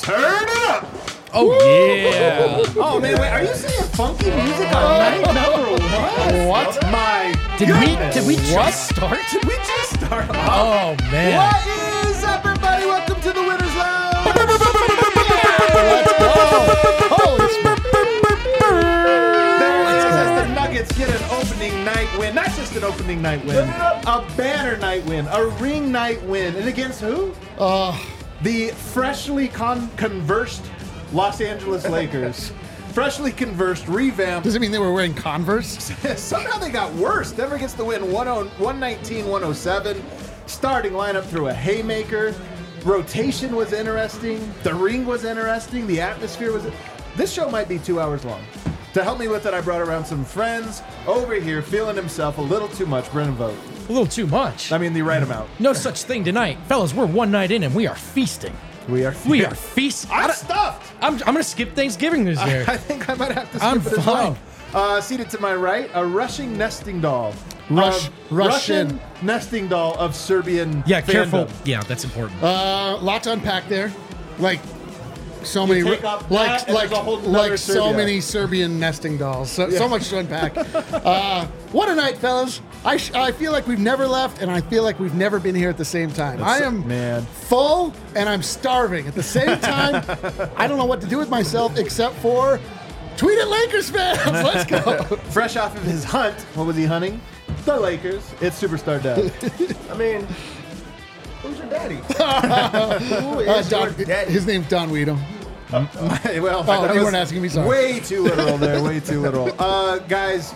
Turn it up. Oh, yeah. Oh, man, wait, are you saying funky music on night number one? What? My Did goodness. we just start? Did we just start? Oh, man. What is up, everybody? Welcome to the Winners Lounge. Holy smokes. There it is, as the Nuggets get an opening night win. Not just an opening night win, a banner night win, a ring night win. And against who? The freshly conversed Los Angeles Lakers. Freshly conversed, revamped. Does it mean they were wearing Converse? Somehow they got worse. Denver gets the win 119-107. Starting lineup through a haymaker. Rotation was interesting. The ring was interesting. The atmosphere was... This show might be 2 hours long. To help me with it, I brought around some friends over here feeling himself a little too much. Brennan Vogt. A little too much. I mean, the right amount. No such thing tonight. Fellas, we're one night in and we are feasting. We are feasting. I'm stuffed. I'm going to skip Thanksgiving this year. I think I might have to skip I'm it as fine. well. Seated to my right, a rushing nesting doll. Russian nesting doll of Serbian Yeah, fandom. careful. Yeah, that's important. Lot to unpack there. Like so many, take off that and there's a whole nother so Serbia. many Serbian nesting dolls. So much to unpack. What a night, fellas! I feel like we've never left, and I feel like we've never been here at the same time. I am full, and I'm starving at the same time. I don't know what to do with myself except for tweet at Lakers fans. Let's go. Fresh off of his hunt, what was he hunting? The Lakers. It's Superstar Dad. I mean, who's your daddy? Who is your daddy? His name's Don Weedham. Well, Oh, that you was weren't asking me, sorry. Way too literal there. Way too literal. Guys,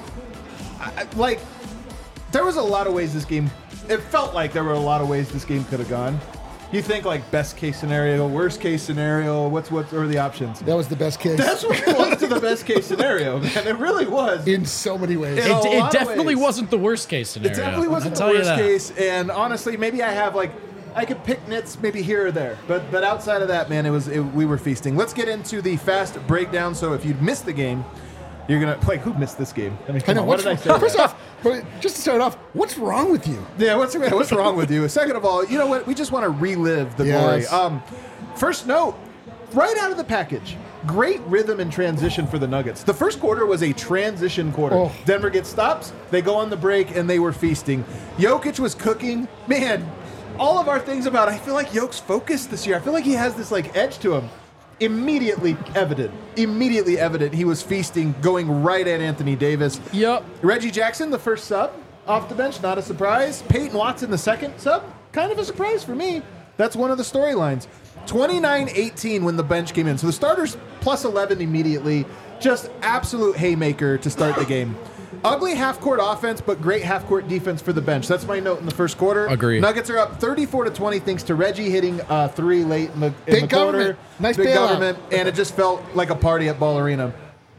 there was a lot of ways this game. It felt like there were a lot of ways this game could have gone. You think like best case scenario, worst case scenario. What are the options? That was the best case. That's what close to the best case scenario, man. It really was. in so many ways. In a lot It of definitely ways. wasn't the worst case scenario. It definitely wasn't the I'll tell you worst that. case, and honestly, maybe I have I could pick nits maybe here or there, but outside of that, man, we were feasting. Let's get into the fast breakdown. So if you missed the game, you're gonna who missed this game? I mean, I know. what did I say? First off, just to start off, what's wrong with you? Yeah, what's wrong with you? Second of all, you know what? We just want to relive the Yes. glory. First note, right out of the package, great rhythm and transition for the Nuggets. The first quarter was a transition quarter. Oh. Denver gets stops, they go on the break, and they were feasting. Jokic was cooking. Man, all of our things about, I feel like Jokic's focused this year. I feel like he has this edge to him. Immediately evident. He was feasting, going right at Anthony Davis. Yep. Reggie Jackson, the first sub off the bench, not a surprise. Peyton Watson, the second sub, kind of a surprise for me. That's one of the storylines. 29-18 when the bench came in. So the starters plus 11 immediately. Just absolute haymaker to start the game. Ugly half-court offense, but great half-court defense for the bench. That's my note in the first quarter. Agreed. Nuggets are up 34-20 thanks to Reggie hitting three late in the Big quarter. government. Nice Big bailout. government, and it just felt like a party at Ball Arena.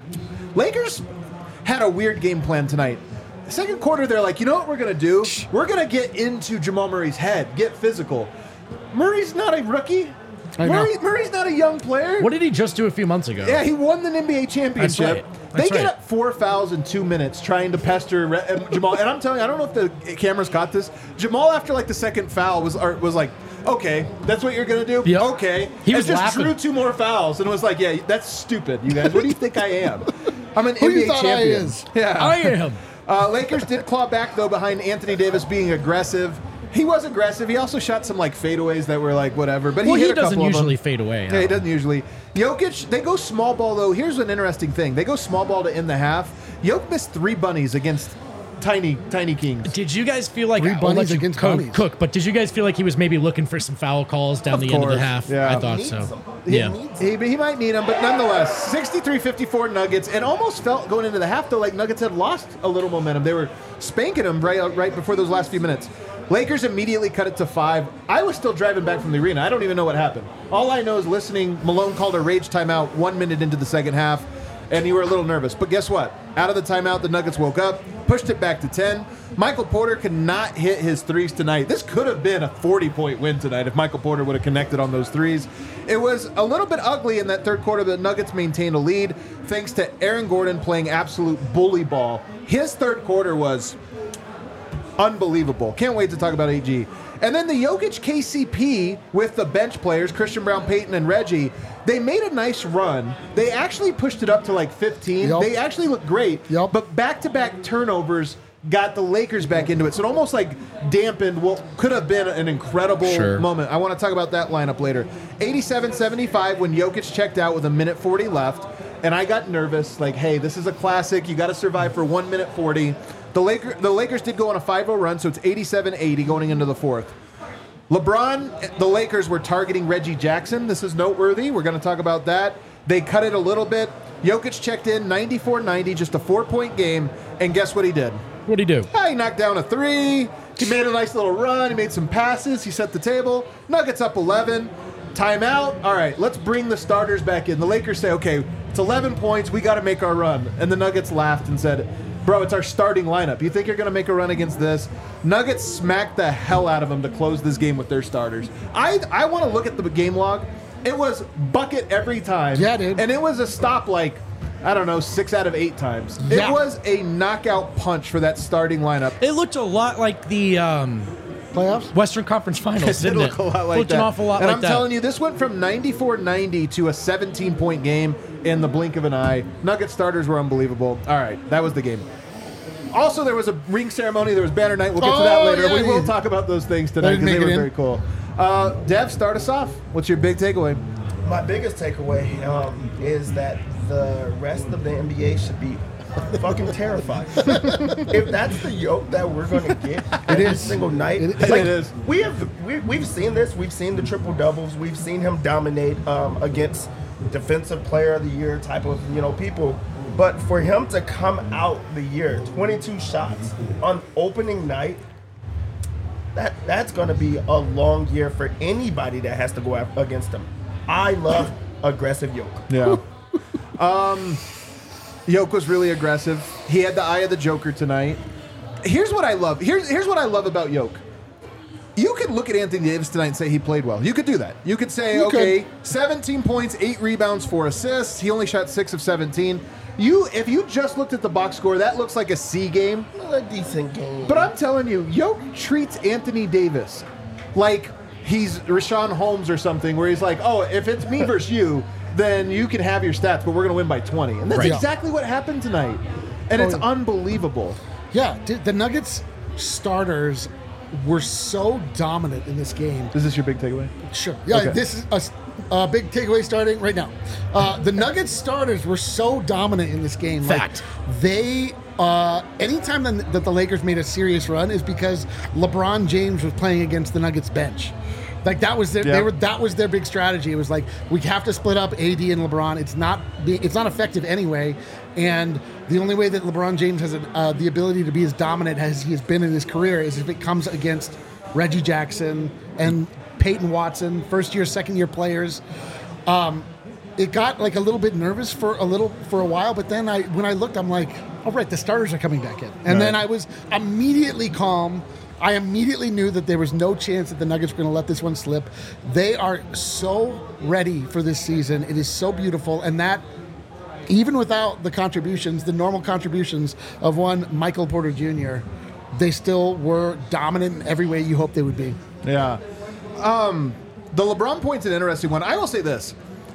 Lakers had a weird game plan tonight. Second quarter, they're like, you know what we're going to do? We're going to get into Jamal Murray's head, get physical. Murray's not a rookie. I know. Murray's not a young player. What did he just do a few months ago? Yeah, he won the NBA championship. That's right. They That's get right. up 4 fouls in 2 minutes trying to pester Jamal. And I'm telling you, I don't know if the cameras caught this. Jamal, after the second foul, was like, okay, that's what you're going to do? Yep. Okay. He was just laughing. drew 2 more fouls and was like, yeah, that's stupid, you guys. What do you think I am? I'm an Who you NBA thought I champion. is? Yeah. I am. Lakers did claw back, though, behind Anthony Davis being aggressive. He was aggressive. He also shot some fadeaways that were whatever. But Well, he hit he a couple doesn't of them. usually fade away. Yeah, he doesn't usually. Jokic, they go small ball, though. Here's an interesting thing. They go small ball to end the half. Jokic missed 3 bunnies against tiny Kings. Did you guys feel like 3 I'll let bunnies you against cook, bunnies. cook? But did you guys feel like he was maybe looking for some foul calls down the end of the course, half? yeah. I thought so. He Yeah. might need them, but nonetheless, 63-54 Nuggets. And almost felt going into the half, though, like Nuggets had lost a little momentum. They were spanking them right before those last few minutes. Lakers immediately cut it to 5. I was still driving back from the arena. I don't even know what happened. All I know is listening, Malone called a rage timeout 1 minute into the second half, and you were a little nervous. But guess what? Out of the timeout, the Nuggets woke up, pushed it back to 10. Michael Porter could not hit his threes tonight. This could have been a 40-point win tonight if Michael Porter would have connected on those threes. It was a little bit ugly in that third quarter, but the Nuggets maintained a lead thanks to Aaron Gordon playing absolute bully ball. His third quarter was unbelievable. Can't wait to talk about AG. And then the Jokic KCP with the bench players, Christian Brown, Peyton, and Reggie, they made a nice run. They actually pushed it up to like 15. Yep. They actually looked great. Yep. But back-to-back turnovers got the Lakers back into it. So it almost like dampened what could have been an incredible moment. I want to talk about that lineup later. 87-75 when Jokic checked out with 1:40 left. And I got nervous, like, hey, this is a classic. You got to survive for 1:40. The Lakers did go on a 5-0 run, so it's 87-80 going into the fourth. LeBron, the Lakers were targeting Reggie Jackson. This is noteworthy. We're going to talk about that. They cut it a little bit. Jokic checked in 94-90, just a 4-point game. And guess what he did? What'd he do? He knocked down a 3. He made a nice little run. He made some passes. He set the table. Nuggets up 11. Timeout. All right, let's bring the starters back in. The Lakers say, okay, it's 11 points. We got to make our run. And the Nuggets laughed and said, bro, it's our starting lineup. You think you're going to make a run against this? Nuggets smacked the hell out of them to close this game with their starters. I want to look at the game log. It was bucket every time. Yeah, dude. And it was a stop like, I don't know, 6 out of 8 times. Yeah. It was a knockout punch for that starting lineup. It looked a lot like the Playoffs? Western Conference Finals, It did didn't look a lot like looked that. an awful lot and like I'm that. telling you, this went from 94-90 to a 17-point game in the blink of an eye. Nugget starters were unbelievable. All right, that was the game. Also, there was a ring ceremony. There was banner night. We'll get to that later. Yeah, we will talk about those things tonight because they were very cool. Dev, start us off. What's your big takeaway? My biggest takeaway is that the rest of the NBA should be fucking terrified. If that's the yoke that we're going to get every single night, It is. We've seen this. We've seen the triple doubles. We've seen him dominate against defensive player of the year type of people. But for him to come out the year 22 shots on opening night, that's going to be a long year for anybody that has to go against him. I love aggressive yoke. Yeah. Yoke was really aggressive. He had the eye of the Joker tonight. Here's what I love. Here's what I love about Yoke. You could look at Anthony Davis tonight and say he played well. You could do that. You could say, okay, 17 points, 8 rebounds, 4 assists. He only shot 6 of 17. If you just looked at the box score, that looks like a C game. A decent game. But I'm telling you, Yoke treats Anthony Davis like he's Rashawn Holmes or something, where he's like, oh, if it's me versus you, then you can have your stats, but we're going to win by 20. And that's exactly what happened tonight. And it's unbelievable. Yeah, dude, the Nuggets starters were so dominant in this game. Is this your big takeaway? Sure. Yeah, Okay. this is a big takeaway starting right now. The Nuggets starters were so dominant in this game. Fact. Like, they, anytime that the Lakers made a serious run is because LeBron James was playing against the Nuggets bench. Like that was their that was their big strategy. It was like we have to split up AD and LeBron. It's not effective anyway. And the only way that LeBron James has the ability to be as dominant as he has been in his career is if it comes against Reggie Jackson and Peyton Watson, first year, second year players. It got like a little bit nervous for a while, but then when I looked, I'm like, all right, the starters are coming back in, and then I was immediately calm. I immediately knew that there was no chance that the Nuggets were going to let this one slip. They are so ready for this season. It is so beautiful, and that even without the contributions, the normal contributions of one Michael Porter Jr., they still were dominant in every way you hoped they would be. Yeah. The LeBron point's an interesting one. I will say this.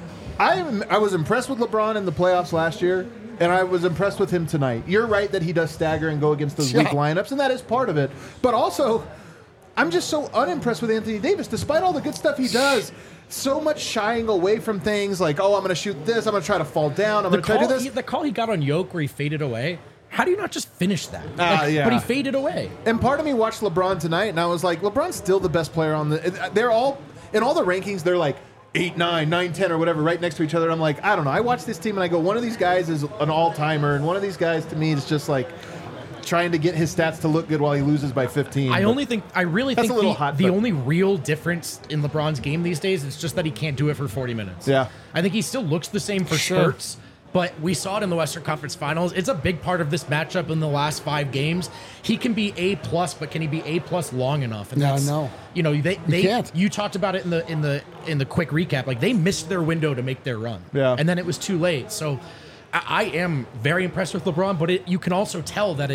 I was impressed with LeBron in the playoffs last year, and I was impressed with him tonight. You're right that he does stagger and go against those weak lineups, and that is part of it. But also, I'm just so unimpressed with Anthony Davis, despite all the good stuff he does. So much shying away from things like, oh, I'm going to shoot this, I'm going to try to fall down, I'm going to try to do this. The call he got on Yoke where he faded away, how do you not just finish that? Yeah. But he faded away. And part of me watched LeBron tonight, and I was like, LeBron's still the best player on the... They're all... In all the rankings, they're like 8, 9, 9, 10, or whatever, right next to each other. I'm like, I don't know. I watch this team, and I go, one of these guys is an all-timer, and one of these guys, to me, is just like trying to get his stats to look good while he loses by 15. I really think the but- only real difference in LeBron's game these days is just that he can't do it for 40 minutes. Yeah. I think he still looks the same for spurts, but we saw it in the Western Conference Finals. It's a big part of this matchup in the last 5 games. He can be A+, but can he be A+ long enough? And No. You know, they can't. You talked about it in the quick recap. Like, they missed their window to make their run. Yeah. And then it was too late. So I am very impressed with LeBron, but you can also tell that it's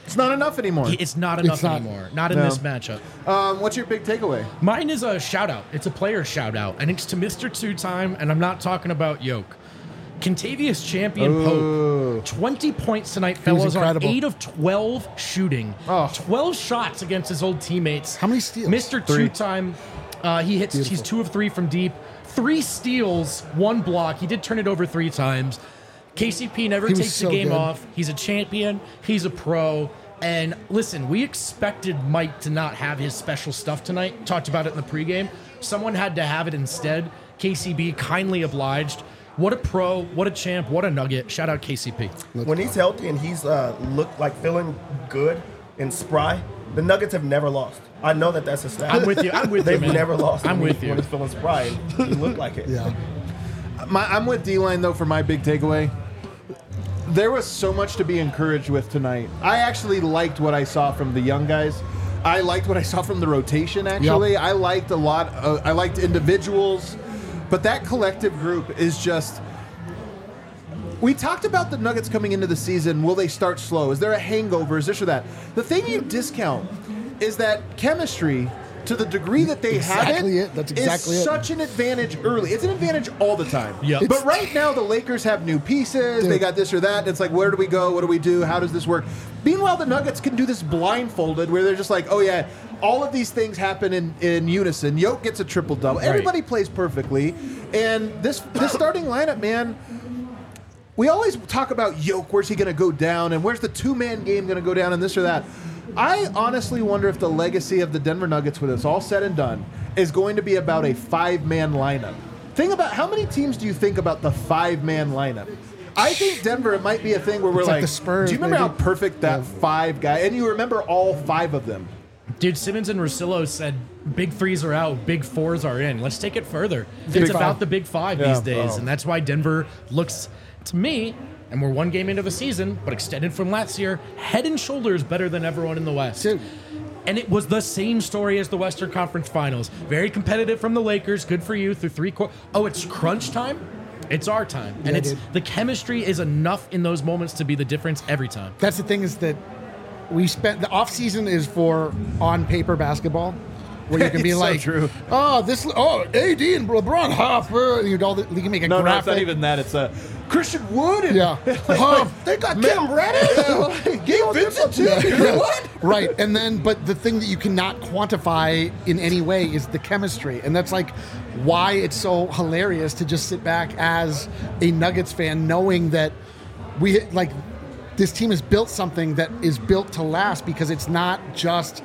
It's not enough anymore. It's not enough anymore. Not in this matchup. What's your big takeaway? Mine is a shout out. It's a player shout out, and it's to Mr. Two-Time, and I'm not talking about Yoke. Kentavious Champion Pope, 20 points tonight, fellas, on 8 of 12 shooting. 12 shots against his old teammates. How many steals? Mr. Two-Time, he's 2 of 3 from deep. 3 steals, 1 block. He did turn it over 3 times. KCP never takes the game off. He's a champion. He's a pro. And listen, we expected Mike to not have his special stuff tonight. Talked about it in the pregame. Someone had to have it instead. KCB kindly obliged. What a pro, what a champ, what a nugget. Shout out KCP. When he's healthy and he's looked like feeling good and spry, the Nuggets have never lost. I know that's a stat. I'm with you. They've man. never lost. I'm with you. When he's feeling spry, and he looked like it. Yeah. I'm with D-Line, though, for my big takeaway. There was so much to be encouraged with tonight. I actually liked what I saw from the young guys. I liked what I saw from the rotation, actually. Yep. I liked a lot. I liked individuals. But that collective group is just... We talked about the Nuggets coming into the season. Will they start slow? Is there a hangover? Is this or that? The thing you discount is that chemistry, to the degree that they have it, That's exactly is such an advantage early. It's an advantage all the time. Yep. But right now, the Lakers have new pieces. They got this or that. It's like, where do we go? What do we do? How does this work? Meanwhile, the Nuggets can do this blindfolded, where they're just like, oh, yeah, all of these things happen in unison. Yoke gets a triple-double. Right. Everybody plays perfectly. And this starting lineup, man, we always talk about Yoke. Where's he going to go down? And where's the two-man game going to go down and this or that? I honestly wonder if the legacy of the Denver Nuggets, when it's all said and done, is going to be about a 5-man lineup. Think about how many teams do you think about the 5-man lineup? I think Denver, it might be a thing where we're like, the Spurs, do you remember maybe? how perfect that 5 guy, and you remember all 5 of them? Dude, Simmons and Russillo said big 3s are out, big 4s are in. Let's take it further. It's about the big 5 these days, and that's why Denver looks, to me, and we're 1 game into the season, but extended from last year, head and shoulders better than everyone in the West. Dude. And it was the same story as the Western Conference Finals. Very competitive from the Lakers. Good for you through 3 quarters. Oh, it's crunch time? It's our time. And the chemistry is enough in those moments to be the difference every time. That's the thing, is that we spent the off season is for on paper basketball, where you can be like, AD and LeBron Hopper, you can make a graphic. No, it's not even that. It's Christian Wood. And, they got Cam Reddish. Gabe Vincent too. What? Right, and then, but the thing that you cannot quantify in any way is the chemistry, and that's like why it's so hilarious to just sit back as a Nuggets fan, knowing that this team has built something that is built to last, because it's not just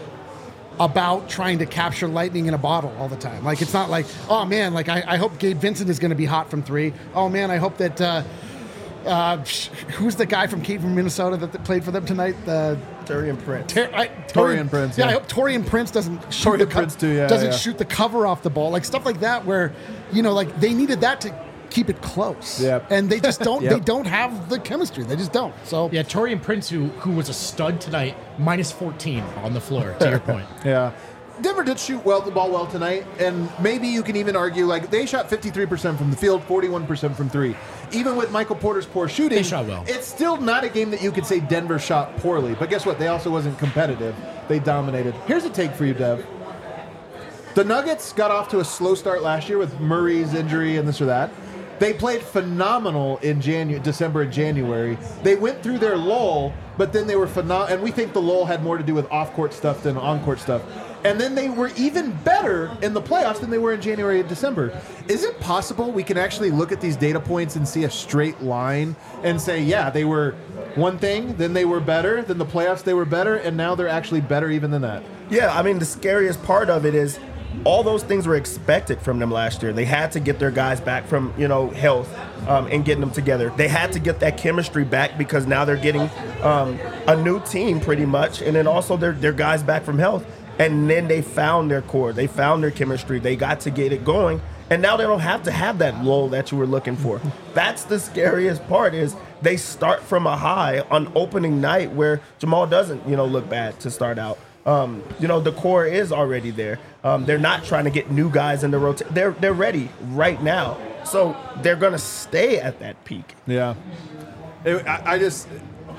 about trying to capture lightning in a bottle all the time. Like, it's not like, oh man, like I hope Gabe Vincent is going to be hot from 3. Oh man, I hope that who's the guy from Minnesota that played for them tonight? Taurean Prince. Taurean Prince. Yeah, I hope Taurean Prince doesn't shoot shoot the cover off the ball, like stuff like that, where like they needed that to keep it close. Yep. And they just don't. They don't have the chemistry. They just don't. So yeah, Taurean Prince, who was a stud tonight, minus 14 on the floor. To your point. Yeah. Denver did shoot the ball well tonight, and maybe you can even argue, like, they shot 53% from the field, 41% from 3. Even with Michael Porter's poor shooting, they shot well. It's still not a game that you could say Denver shot poorly. But guess what? They also wasn't competitive. They dominated. Here's a take for you, Dev. The Nuggets got off to a slow start last year with Murray's injury and this or that. They played phenomenal in December and January. They went through their lull, but then they were phenomenal. And we think the lull had more to do with off-court stuff than on-court stuff. And then they were even better in the playoffs than they were in January and December. Is it possible we can actually look at these data points and see a straight line and say, yeah, they were one thing, then they were better, then the playoffs they were better, and now they're actually better even than that? Yeah, I mean, the scariest part of it is all those things were expected from them last year. They had to get their guys back from, health and getting them together. They had to get that chemistry back, because now they're getting a new team pretty much, and then also their guys back from health. And then they found their core. They found their chemistry. They got to get it going. And now they don't have to have that lull that you were looking for. That's the scariest part, is they start from a high on opening night where Jamal doesn't, look bad to start out. The core is already there. They're not trying to get new guys in the rotation. They're ready right now. So they're going to stay at that peak. Yeah.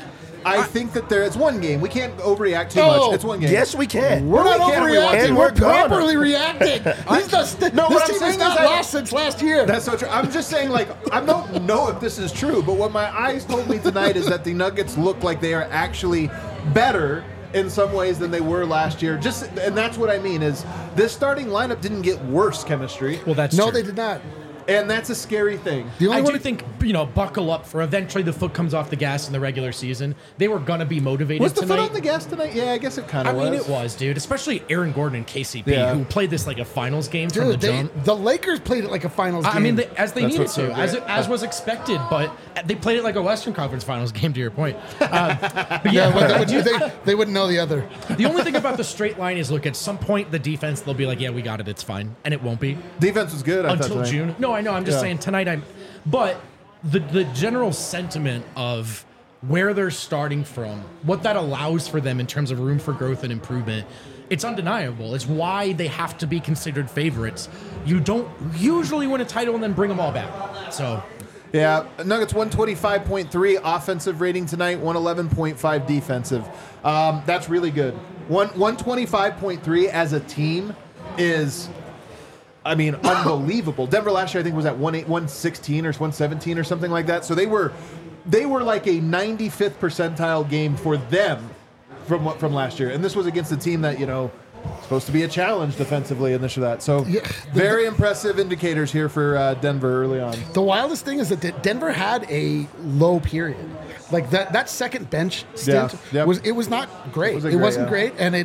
I think that it's one game. We can't overreact too much. It's one game. Yes, we can. We're not overreacting. And We're gonna. properly reacting. This team has not lost since last year. That's so true. I'm just saying, like, I don't know if this is true, but what my eyes told me tonight is that the Nuggets look like they are actually better in some ways than they were last year. And that's what I mean is this starting lineup didn't get worse chemistry. Well, that's no, true. they did not. And that's a scary thing. I do think, buckle up for eventually the foot comes off the gas in the regular season. They were going to be motivated Was the tonight. foot on the gas tonight? Yeah, I guess it kind of was. I mean, it was, dude. Especially Aaron Gordon and KCP, who played this like a finals game from the jump. The Lakers played it like a finals game. I mean, as they needed so to, as was expected, but they played it like a Western Conference Finals game, to your point. But they wouldn't know the other. The only thing about the straight line is, look, at some point, the defense, they'll be like, yeah, we got it, it's fine. And it won't be. Defense was good until June. No, I know. I'm just saying tonight but the general sentiment of where they're starting from, what that allows for them in terms of room for growth and improvement, it's undeniable. It's why they have to be considered favorites. You don't usually win a title and then bring them all back. So yeah, Nuggets 125.3 offensive rating tonight, 111.5 defensive. That's really good. 125.3 as a team is, I mean, unbelievable. Denver last year, I think, was at 116 or 117 or something like that. So they were like a 95th percentile game for them from last year. And this was against a team that, supposed to be a challenge defensively and this or that. So very impressive indicators here for Denver early on. The wildest thing is that Denver had a low period. Like that second bench stint was not great. It wasn't great, and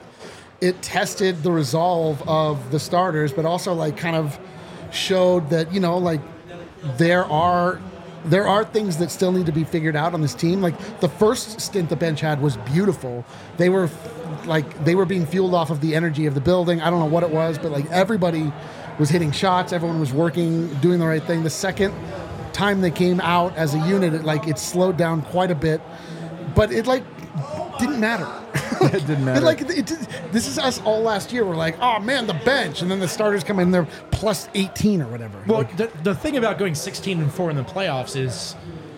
it tested the resolve of the starters, but also kind of showed that there are things that still need to be figured out on this team. Like the first stint the bench had was beautiful. They were being fueled off of the energy of the building. I don't know what it was, but everybody was hitting shots. Everyone was working, doing the right thing. The second time they came out as a unit, it slowed down quite a bit, but it didn't matter. It didn't matter. This is us all last year. We're like, oh man, the bench, and then the starters come in, they're plus 18 or whatever. Well, the thing about going 16-4 in the playoffs is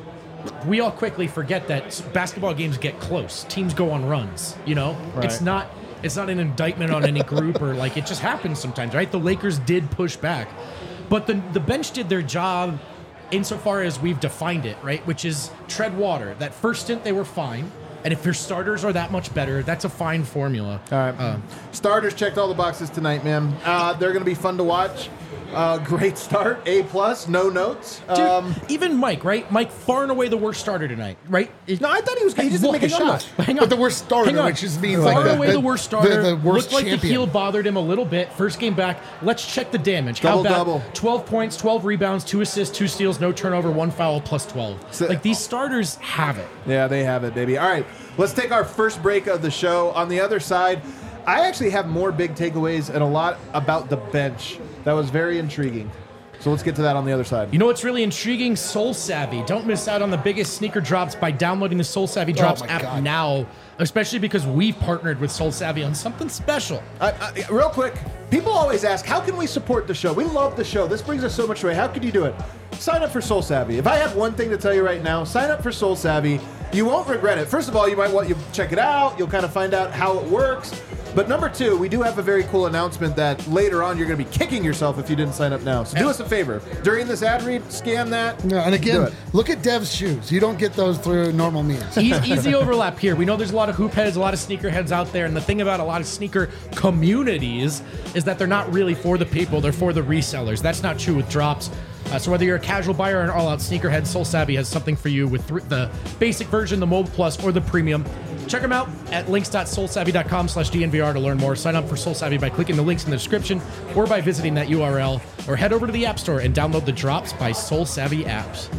we all quickly forget that basketball games get close. Teams go on runs. Right. It's not an indictment on any group or it just happens sometimes, right? The Lakers did push back, but the bench did their job insofar as we've defined it, right? Which is tread water. That first stint they were fine. And if your starters are that much better, that's a fine formula. All right. Starters checked all the boxes tonight, man. They're going to be fun to watch. Great start. A+, no notes. Dude, even Mike, right? Mike, far and away the worst starter tonight, right? No, I thought he was good. He just didn't make a shot. Hang on. But the worst starter, which just means far and away the worst starter. The worst looked champion. The heel bothered him a little bit. First game back. Let's check the damage. Double. 12 points, 12 rebounds, 2 assists, 2 steals, no turnover, 1 foul, plus 12. So, these starters have it. Yeah, they have it, baby. All right, let's take our first break of the show. On the other side, I actually have more big takeaways and a lot about the bench. That was very intriguing. So let's get to that on the other side. You know what's really intriguing? Soul Savvy. Don't miss out on the biggest sneaker drops by downloading the Soul Savvy Drops app now, especially because we've partnered with Soul Savvy on something special. Real quick, people always ask, how can we support the show? We love the show. This brings us so much joy. How could you do it? Sign up for Soul Savvy. If I have one thing to tell you right now, sign up for Soul Savvy. You won't regret it. First of all, you might want to check it out. You'll kind of find out how it works. But number two, we do have a very cool announcement that later on you're going to be kicking yourself if you didn't sign up now. So do us a favor. During this ad read, scan that. No, and again, look at Dev's shoes. You don't get those through normal means. Easy overlap here. We know there's a lot of hoop heads, a lot of sneaker heads out there. And the thing about a lot of sneaker communities is that they're not really for the people. They're for the resellers. That's not true with drops. So whether you're a casual buyer or an all-out sneakerhead, Soul Savvy has something for you with the basic version, the Mobile Plus, or the Premium. Check them out at links.soulsavvy.com/DNVR to learn more. Sign up for Soul Savvy by clicking the links in the description or by visiting that URL, or head over to the App Store and download the Drops by Soul Savvy apps.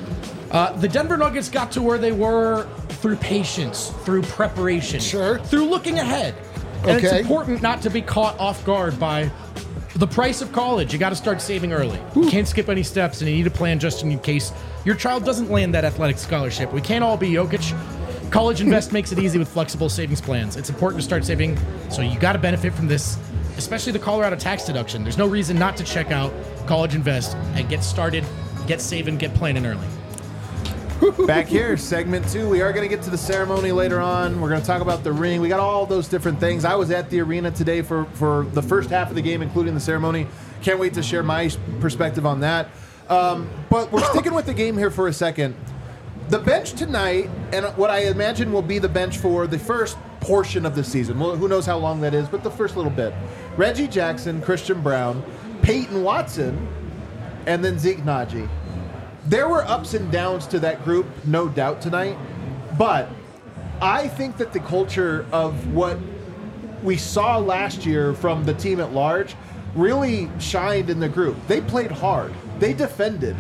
The Denver Nuggets got to where they were through patience, through preparation, through looking ahead. And it's important not to be caught off guard by the price of college. You got to start saving early. You can't skip any steps, and you need a plan just in case your child doesn't land that athletic scholarship. We can't all be Jokic. College Invest makes it easy with flexible savings plans. It's important to start saving, so you got to benefit from this, especially the Colorado tax deduction. There's no reason not to check out College Invest and get started, get saving, get planning early. Back here, segment 2. We are going to get to the ceremony later on. We're going to talk about the ring. We got all those different things. I was at the arena today for the first half of the game, including the ceremony. Can't wait to share my perspective on that. But we're sticking with the game here for a second. The bench tonight, and what I imagine will be the bench for the first portion of the season. Well, who knows how long that is, but the first little bit. Reggie Jackson, Christian Braun, Peyton Watson, and then Zeke Naji. There were ups and downs to that group, no doubt, tonight. But I think that the culture of what we saw last year from the team at large really shined in the group. They played hard. They defended.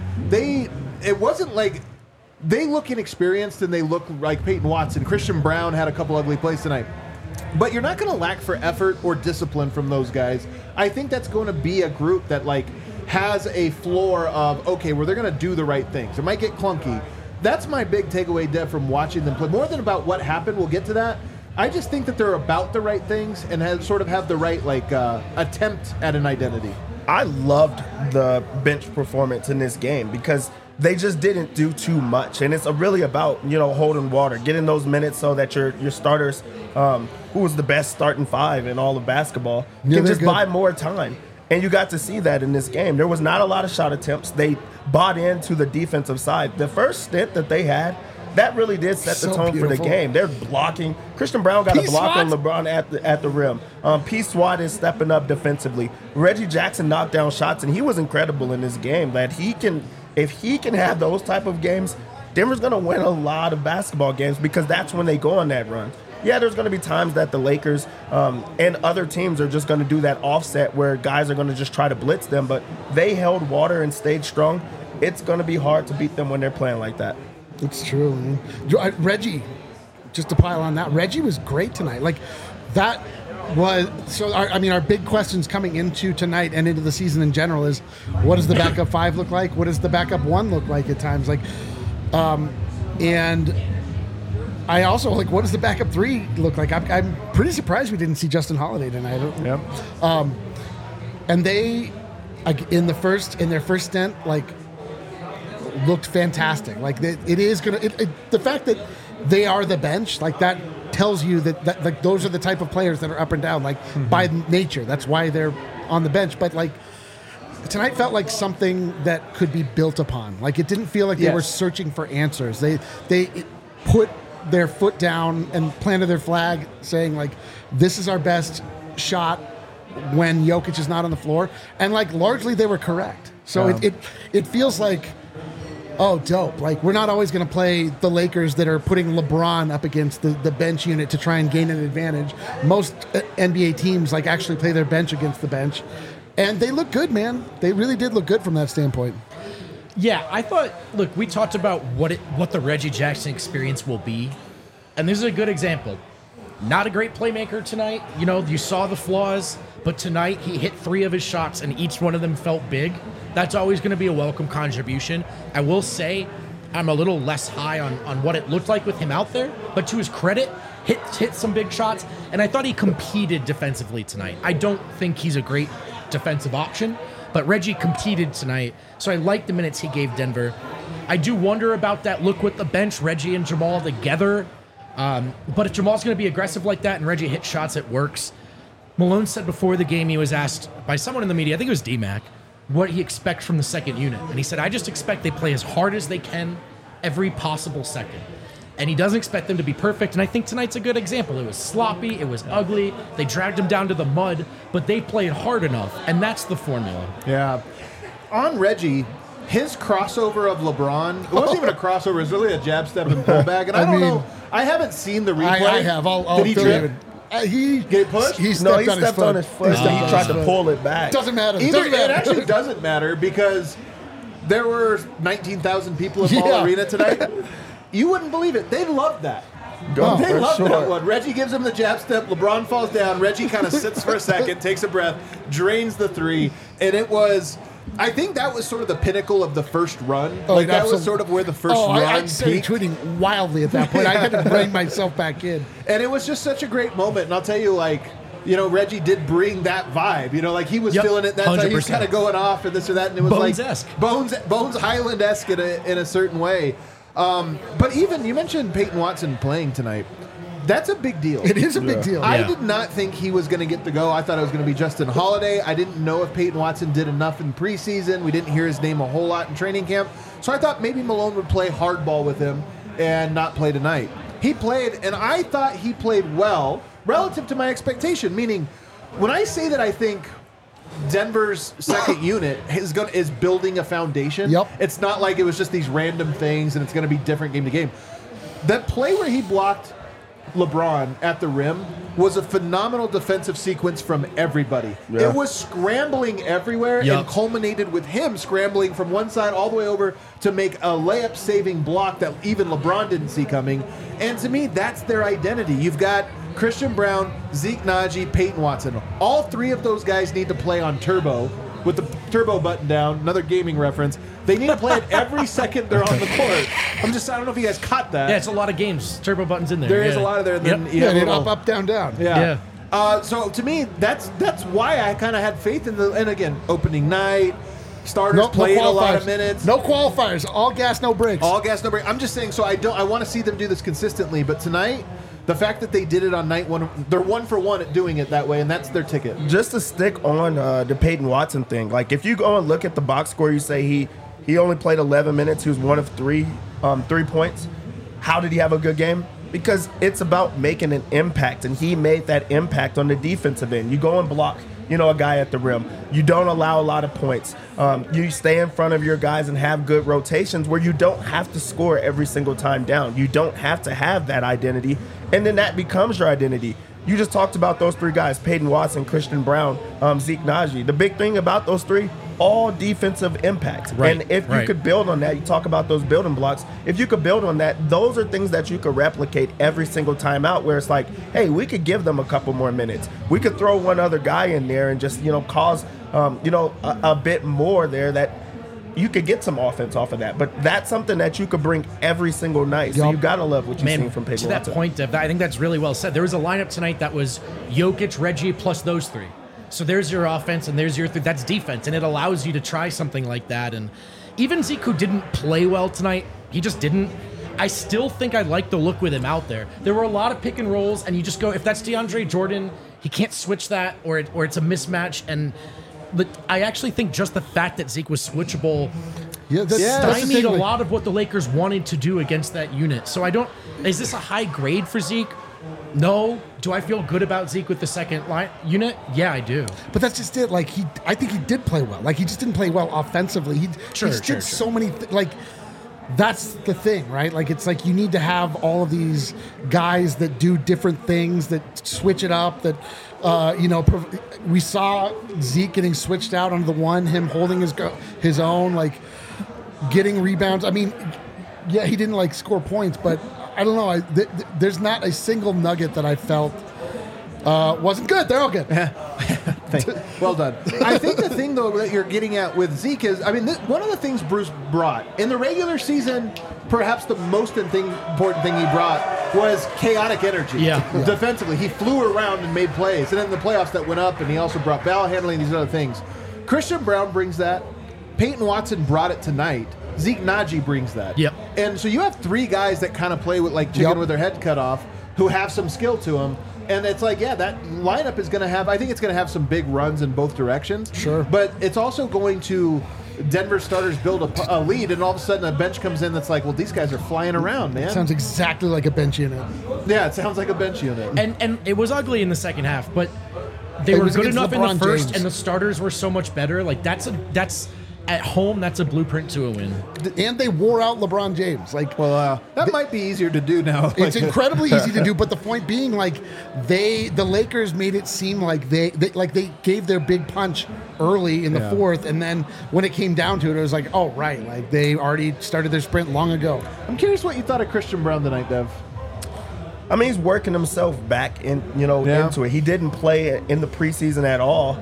It wasn't like they look inexperienced and they look like Peyton Watson. Christian Braun had a couple ugly plays tonight. But you're not going to lack for effort or discipline from those guys. I think that's going to be a group that has a floor of, okay, where they're going to do the right things. It might get clunky. That's my big takeaway, Dev, from watching them play. More than about what happened, we'll get to that. I just think that they're about the right things and have the right attempt at an identity. I loved the bench performance in this game because they just didn't do too much. And it's really about, holding water, getting those minutes so that your starters, who was the best starting five in all of basketball, can just buy more time. And you got to see that in this game. There was not a lot of shot attempts. They bought into the defensive side. The first stint that they had, that really did set the tone for the game. They're blocking. Christian Braun got a block on LeBron at the rim. P. Swat is stepping up defensively. Reggie Jackson knocked down shots, and he was incredible in this game. That if he can have those type of games, Denver's going to win a lot of basketball games because that's when they go on that run. Yeah, there's going to be times that the Lakers and other teams are just going to do that offset where guys are going to just try to blitz them, but they held water and stayed strong. It's going to be hard to beat them when they're playing like that. It's true, man. Reggie, just to pile on that, Reggie was great tonight. Our big questions coming into tonight and into the season in general is, what does the backup five look like? What does the backup one look like at times? And I also what does the backup three look like? I'm pretty surprised we didn't see Justin Holiday tonight. Yep. And they, in their first stint, looked fantastic. The fact that they are the bench, that tells you that those are the type of players that are up and down, by nature. That's why they're on the bench. But tonight felt like something that could be built upon. It didn't feel like they were searching for answers. They put their foot down and planted their flag, saying this is our best shot when Jokic is not on the floor, and largely they were correct. So it feels like, oh, dope. We're not always going to play the Lakers that are putting LeBron up against the bench unit to try and gain an advantage. Most NBA teams actually play their bench against the bench. And they look good, man. They really did look good from that standpoint. Yeah, I thought, look, we talked about what the Reggie Jackson experience will be. And this is a good example. Not a great playmaker tonight. You saw the flaws, but tonight he hit 3 of his shots and each one of them felt big. That's always going to be a welcome contribution. I will say I'm a little less high on what it looked like with him out there, but to his credit, hit some big shots, and I thought he competed defensively tonight. I don't think he's a great defensive option, but Reggie competed tonight, so I like the minutes he gave Denver. I do wonder about that look with the bench, Reggie and Jamal together, but if Jamal's going to be aggressive like that and Reggie hits shots, it works. Malone said before the game he was asked by someone in the media, I think it was D-Mac, what he expects from the second unit. And he said, I just expect they play as hard as they can every possible second. And he doesn't expect them to be perfect. And I think tonight's a good example. It was sloppy. It was ugly. They dragged him down to the mud, but they played hard enough. And that's the formula. Yeah. On Reggie, his crossover of LeBron, it wasn't even a crossover. It was really a jab step and pullback. And I don't know. I haven't seen the replay. I have. Did he trip? He get pushed? He stepped on his foot. So he tried to pull it back. Doesn't matter. It actually doesn't matter because there were 19,000 people in Ball Arena tonight. You wouldn't believe it. They loved that. They loved that one. Reggie gives him the jab step. LeBron falls down. Reggie kind of sits for a second, takes a breath, drains the 3, and it was. I think that was sort of the pinnacle of the first run. That was sort of where the first run I started tweeting wildly at that point. I had to bring myself back in. And it was just such a great moment. And I'll tell you, Reggie did bring that vibe. He was feeling it that 100%. Time. He was kind of going off and this or that. And it was Bones-esque. Bones Highland-esque in a certain way. But even, you mentioned Peyton Watson playing tonight. That's a big deal. It is a big deal. I did not think he was going to get the go. I thought it was going to be Justin Holiday. I didn't know if Peyton Watson did enough in preseason. We didn't hear his name a whole lot in training camp. So I thought maybe Malone would play hardball with him and not play tonight. He played, and I thought he played well relative to my expectation, meaning when I say that I think Denver's second unit is building a foundation, it's not like it was just these random things and it's going to be different game to game. That play where he blocked LeBron at the rim was a phenomenal defensive sequence from everybody. Yeah. It was scrambling everywhere and culminated with him scrambling from one side all the way over to make a layup-saving block that even LeBron didn't see coming. And to me, that's their identity. You've got Christian Braun, Zeke Nnaji, Peyton Watson. All three of those guys need to play on turbo with the turbo button down, another gaming reference. They need to play it every second they're on the court. I don't know if you guys caught that. Yeah, it's a lot of games. Turbo buttons in there. There is a lot of there. And then up, down, down. Yeah. So to me, that's why I kind of had faith in and again, opening night, starters played a lot of minutes. No qualifiers. All gas, no brakes. All gas, no brakes. I'm just saying, so I want to see them do this consistently, but tonight, the fact that they did it on night one, they're 1 for 1 at doing it that way, and that's their ticket. Just to stick on the Peyton Watson thing, like if you go and look at the box score, you say he only played 11 minutes. He was 1 of 3 points. How did he have a good game? Because it's about making an impact, and he made that impact on the defensive end. You go and block, a guy at the rim. You don't allow a lot of points. You stay in front of your guys and have good rotations where you don't have to score every single time down. You don't have to have that identity, and then that becomes your identity. You just talked about those 3 guys, Peyton Watson, Christian Braun, Zeke Nnaji. The big thing about those 3, all defensive impact. Right, and if you could build on that, you talk about those building blocks. If you could build on that, those are things that you could replicate every single time out where it's like, hey, we could give them a couple more minutes. We could throw one other guy in there and just, cause, a bit more there that you could get some offense off of that. But that's something that you could bring every single night. So you got to love what you've seen from Peyton Watson. To that point, Dev, I think that's really well said. There was a lineup tonight that was Jokic, Reggie, plus those 3. So there's your offense and there's your that's defense, and it allows you to try something like that. And even Zeke, who didn't play well tonight, he just didn't. I still think I like the look with him out there. There were a lot of pick and rolls, and you just go, if that's DeAndre Jordan, he can't switch that, or it's a mismatch. And I actually think just the fact that Zeke was switchable stymied a lot of what the Lakers wanted to do against that unit. So is this a high grade for Zeke? No. Do I feel good about Zeke with the second line unit? Yeah, I do. But that's just it. Like I think he did play well. Like he just didn't play well offensively. He did so many. That's the thing, right? Like it's like you need to have all of these guys that do different things, that switch it up. That we saw Zeke getting switched out on the one, him holding his own, like getting rebounds. I mean, yeah, he didn't score points, but. I don't know. There's not a single nugget that I felt wasn't good. They're all good. Well done. I think the thing, though, that you're getting at with Zeke is, one of the things Bruce brought in the regular season, perhaps the most important thing he brought was chaotic energy. Yeah. Defensively, he flew around and made plays. And then in the playoffs that went up, and he also brought ball handling, these other things. Christian Braun brings that. Peyton Watson brought it tonight. Zeke Nnaji brings that. Yep. And so you have 3 guys that kind of play with chicken with their head cut off, who have some skill to them. And it's that lineup is going to have, I think it's going to have some big runs in both directions. Sure. But it's also going to, Denver starters build a lead, and all of a sudden a bench comes in that's like, well, these guys are flying around, man. It sounds exactly like a bench unit. Yeah, it sounds like a bench unit. And it was ugly in the second half, but they were good enough in the first, and the starters were so much better. That's at home, that's a blueprint to a win. And they wore out LeBron James. That might be easier to do now. It's incredibly easy to do, but the point being, the Lakers made it seem like they gave their big punch early in the fourth, and then when it came down to it, it was like, oh, right, they already started their sprint long ago. I'm curious what you thought of Christian Braun tonight, Dev. He's working himself back into it. He didn't play in the preseason at all.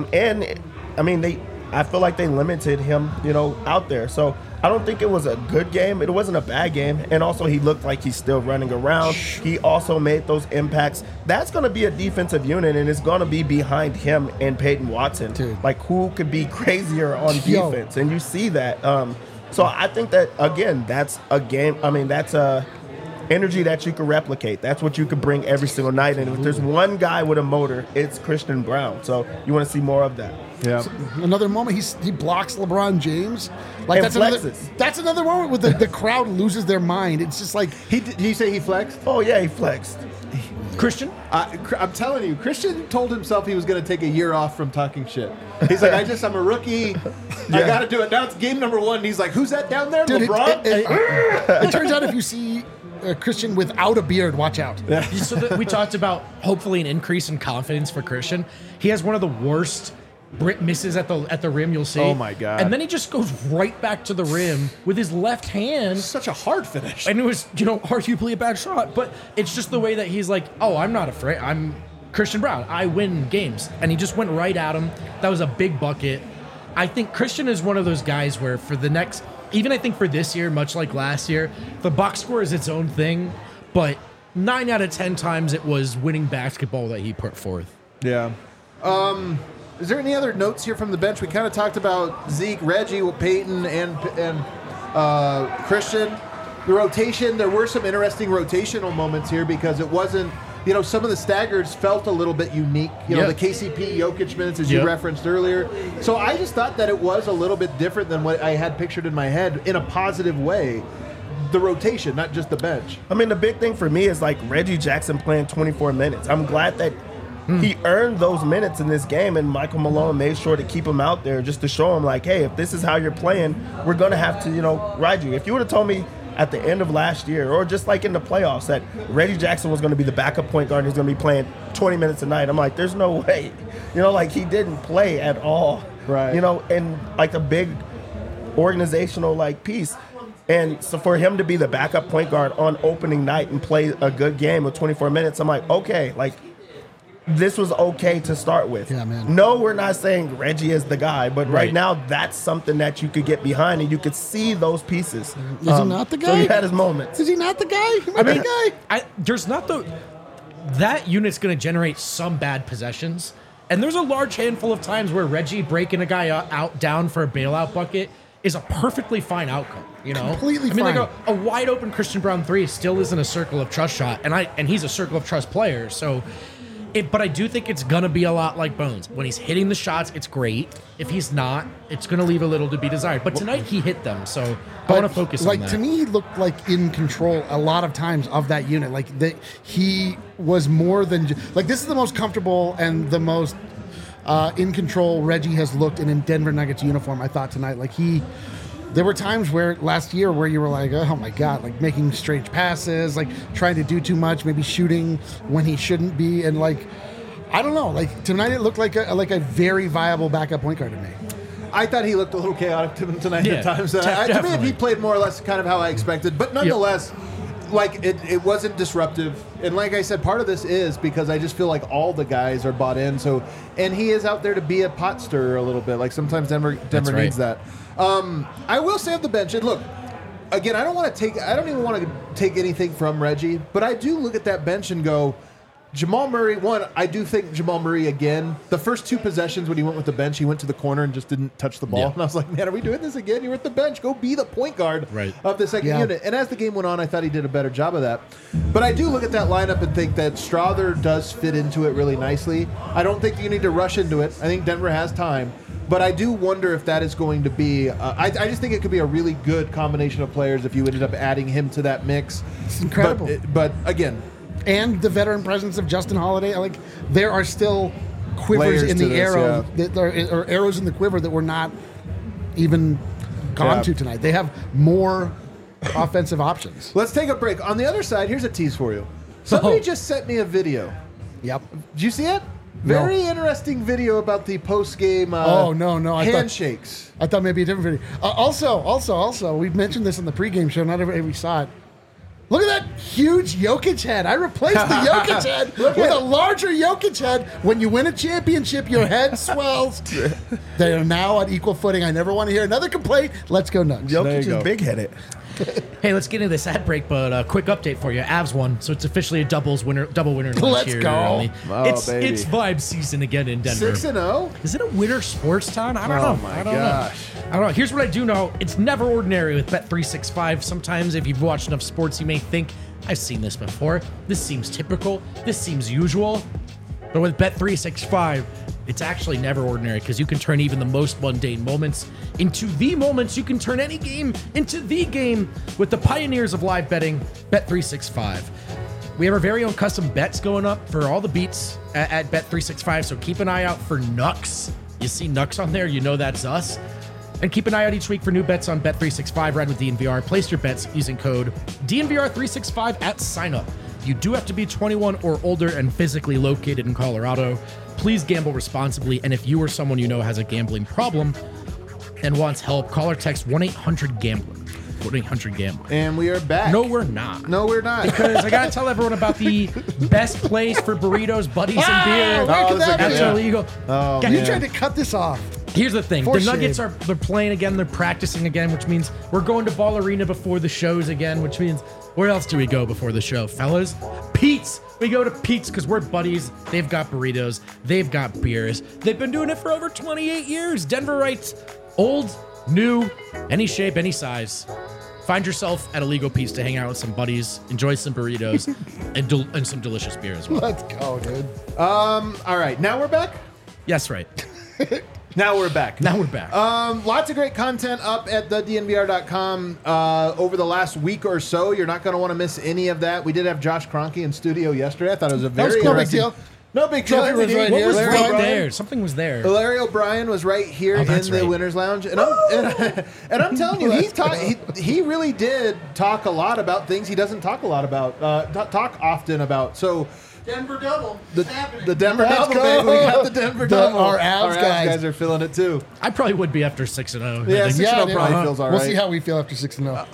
I feel like they limited him, out there. So I don't think it was a good game. It wasn't a bad game. And also he looked like he's still running around. He also made those impacts. That's going to be a defensive unit, and it's going to be behind him and Peyton Watson. Dude. Who could be crazier on defense? And you see that. So I think that, again, that's a game. I mean, that's a energy that you can replicate. That's what you can bring every single night. And if there's one guy with a motor, it's Christian Braun. So you want to see more of that. Yeah. So another moment, he blocks LeBron James. Like and that's another moment where the crowd loses their mind. It's just like Did you say he flexed? Oh, yeah, he flexed. Christian? I'm telling you, Christian told himself he was going to take a year off from talking shit. He's like, I'm a rookie. I got to do it. Now it's game number 1. And he's like, who's that down there? Dude, LeBron? it turns out if you see Christian without a beard, watch out. So we talked about hopefully an increase in confidence for Christian. He has one of the worst misses at the rim you'll see. Oh my God. And then he just goes right back to the rim with his left hand. Such a hard finish. And it was, arguably a bad shot, but it's just the way that he's like, oh, I'm not afraid. I'm Christian Braun. I win games. And he just went right at him. That was a big bucket. I think Christian is one of those guys where for the next, even I think for this year, much like last year, the box score is its own thing, but 9 out of 10 times it was winning basketball that he put forth. Yeah. Is there any other notes here from the bench? We kind of talked about Zeke, Reggie, Peyton, and Christian. The rotation, there were some interesting rotational moments here because it wasn't, some of the staggers felt a little bit unique. The KCP Jokic minutes, as you referenced earlier. So I just thought that it was a little bit different than what I had pictured in my head in a positive way. The rotation, not just the bench. I mean, the big thing for me is like Reggie Jackson playing 24 minutes. I'm glad that he earned those minutes in this game, and Michael Malone made sure to keep him out there just to show him, like, hey, if this is how you're playing, we're going to have to, ride you. If you would have told me at the end of last year or just like in the playoffs that Reggie Jackson was going to be the backup point guard and he's going to be playing 20 minutes a night, I'm like, there's no way. He didn't play at all. Right. And like a big organizational piece. And so for him to be the backup point guard on opening night and play a good game of 24 minutes, I'm like, okay, this was okay to start with. Yeah, man. No, we're not saying Reggie is the guy, but right now that's something that you could get behind and you could see those pieces. Is he not the guy? So he had his moments. Is he not the guy? The guy. There's not that unit's going to generate some bad possessions, and there's a large handful of times where Reggie breaking a guy out down for a bailout bucket is a perfectly fine outcome. Completely fine. Like a wide open Christian Braun 3 still isn't a circle of trust shot, and he's a circle of trust player. So. But I do think it's going to be a lot like Bones. When he's hitting the shots, it's great. If he's not, it's going to leave a little to be desired. But tonight he hit them, so I want to focus on that. To me, he looked like in control a lot of times of that unit. He was more than... this is the most comfortable and the most in control Reggie has looked in a Denver Nuggets uniform, I thought, tonight. There were times where last year where you were like, oh my God, making strange passes, trying to do too much, maybe shooting when he shouldn't be. And I don't know, tonight it looked like a very viable backup point guard to me. I thought he looked a little chaotic tonight at times. To me, he played more or less kind of how I expected. But nonetheless, it wasn't disruptive. And like I said, part of this is because I just feel like all the guys are bought in. So, and he is out there to be a pot stirrer a little bit. Sometimes Denver needs that. I will say of the bench, and look, again, I don't even want to take anything from Reggie, but I do look at that bench and go, Jamal Murray, I do think Jamal Murray, again, the first 2 possessions when he went with the bench, he went to the corner and just didn't touch the ball. Yeah. And I was like, man, are we doing this again? You're at the bench. Go be the point guard of the second unit. And as the game went on, I thought he did a better job of that. But I do look at that lineup and think that Strother does fit into it really nicely. I don't think you need to rush into it. I think Denver has time. But I do wonder if that is going to be... I just think it could be a really good combination of players if you ended up adding him to that mix. It's incredible. But again... And the veteran presence of Justin Holiday. There are still quivers in the arrow, or arrows in the quiver that were not even gone to tonight. They have more offensive options. Let's take a break. On the other side, here's a tease for you. Somebody just sent me a video. Yep. Did you see it? Very interesting video about the post-game handshakes. I thought maybe a different video. Also, we've mentioned this in the pregame show. Not everybody saw it. Look at that huge Jokic head. I replaced the Jokic head with a larger Jokic head. When you win a championship, your head swells. They are now on equal footing. I never want to hear another complaint. Let's go Nugs. Jokic is big-headed. Hey, let's get into this ad break, but a quick update for you. Avs won, so it's officially a double winner lunch Let's here. go. Oh, it's baby. vibe season again in Denver. 6-0. Is it a winter sports town? I don't know. Oh my gosh. I don't know. Here's what I do know. It's never ordinary with Bet365. Sometimes if you've watched enough sports, you may think, I've seen this before. This seems typical. This seems usual. But with Bet365, it's actually never ordinary because you can turn even the most mundane moments into the moments. You can turn any game into the game with the pioneers of live betting, Bet365. We have our very own custom bets going up for all the beats at Bet365, so keep an eye out for Nux. You see Nux on there, you know that's us. And keep an eye out each week for new bets on Bet365. Ride with DNVR. Place your bets using code DNVR365 at sign-up. You do have to be 21 or older and physically located in Colorado. Please gamble responsibly. And if you or someone you know has a gambling problem and wants help, call or text 1-800-GAMBLER. 1-800-GAMBLER. And we are back. No, we're not. No, we're not. Because I got to tell everyone about the best place for burritos, buddies, and beer. where could that That's be? illegal. Oh, Guys, You tried to cut this off. Here's the thing. For The Nuggets shame. they're playing again. They're practicing again, which means we're going to Ball Arena before the shows again, which means where else do we go before the show, fellas? Pete's. We go to Pete's because we're buddies. They've got burritos. They've got beers. They've been doing it for over 28 years. Denver writes old, new, any shape, any size. Find yourself at a legal Pete's to hang out with some buddies, enjoy some burritos, and some delicious beer as well. Let's go, dude. All right, now we're back. Yes, right. Now we're back. Now we're back. Lots of great content up at thednvr.com over the last week or so. You're not going to want to miss any of that. We did have Josh Kroenke in studio yesterday. I thought it was a very no big interesting deal. No big deal. Trophy was right what here. was Larry right O'Brien. there? Something was there. Larry O'Brien was right here in that's the right. Winners Lounge, and I'm telling you, he really did talk a lot about things he doesn't talk a lot about, talk often about. So Denver double. the Denver Let's double, go. baby. We got the Denver double. Our Avs guys. are feeling it too. I probably would be after 6-0. Yeah, I think. 6-0 dude. probably feels all right. We'll see how we feel after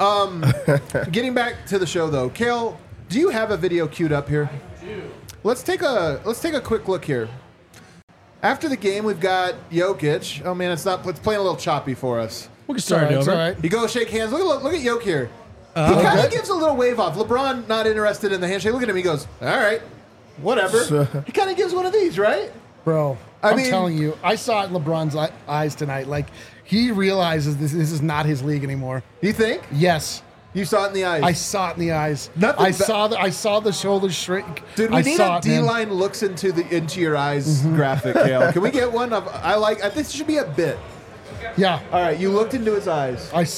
6-0. Getting back to the show though, Kale, do you have a video queued up here? Let's take a quick look here. After the game, we've got Jokic. Oh man, it's playing a little choppy for us. We can start it It's over. all right. You go shake hands. Look at Jokic here. He kind of gives a little wave off. LeBron not interested in the handshake. Look at him. He goes, all right, whatever. He kind of gives one of these, right? Bro, I I'm mean- telling you, I saw it in LeBron's eyes tonight. Like, he realizes this is not his league anymore. You think? Yes. You saw it in the eyes. I saw it in the eyes. Nothing I ba- saw the shoulders shrink. Dude, we I need saw a it, man. D-line looks into your eyes graphic, Kale. Can we get one? I think this should be a bit. Yeah. All right, you looked into his eyes. I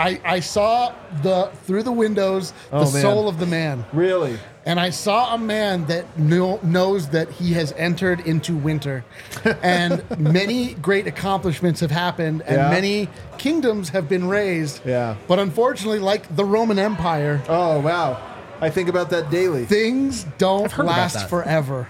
saw through the windows the Oh, man. soul of the man. Really? And I saw a man that knows that he has entered into winter. And many great accomplishments have happened, and Yeah. many kingdoms have been raised. Yeah. But unfortunately, like the Roman Empire, Oh, wow. I think about that daily. things don't heard about last that. forever.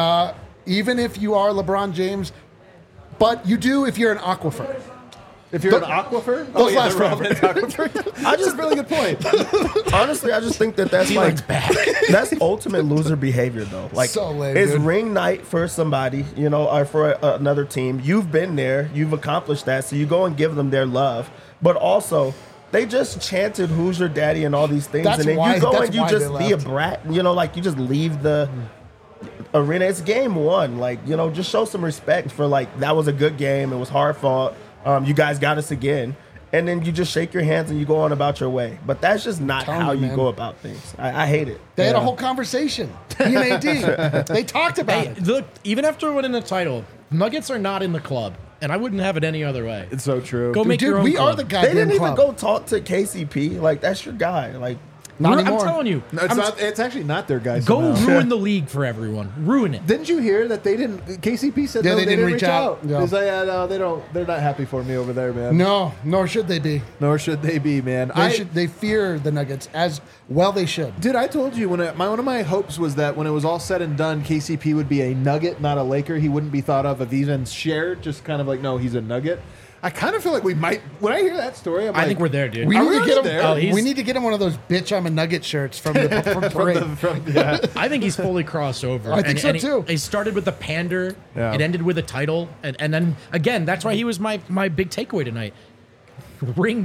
Even if you are LeBron James, but you do if you're an aquifer. If you're an aquifer? Those last the forever. Roman aquifer. That's a really good point. Honestly, I just think that's like that's ultimate loser behavior, though. Like, So lame, it's dude. ring night for somebody, or for another team. You've been there, you've accomplished that, so you go and give them their love. But also, they just chanted "Who's your daddy" and all these things, That's and then why- you go that's and you why just they be a left. brat. Like you just leave the arena. It's game one. Like just show some respect for that was a good game. It was hard fought. You guys got us again. And then you just shake your hands and you go on about your way. But that's just not Telling how you, you man. go about things. I hate it. They had a whole conversation. He and AD. They talked about Hey, it. look, even after winning the title, Nuggets are not in the club, and I wouldn't have it any other way. It's so true. Go make Dude, your own we club. are the They goddamn didn't even club. go talk to KCP. Like, that's your guy. Like, Not I'm anymore. telling you. No, it's actually not their guys. Go somehow. ruin the league for everyone. Ruin it. Didn't you hear that they didn't? KCP said Yeah, no, they didn't reach out. They Yeah. say, no, they don't. They're not happy for me over there, man. No, nor should they be. Nor should they be, man. They fear the Nuggets as well. They should. Dude, I told you one of my hopes was that when it was all said and done, KCP would be a Nugget, not a Laker. He wouldn't be thought of even shared. Just kind of like, no, he's a Nugget. I kind of feel like we might. When I hear that story, I think we're there, dude. We Are need we to get already him. there? Oh, he's- we need to get him one of those "bitch I'm a Nugget" shirts from Parade. yeah. I think he's fully crossed over. I think so, he- too. He started with the pander. Yeah. It ended with a title. And then, again, that's why he was my big takeaway tonight. Ring night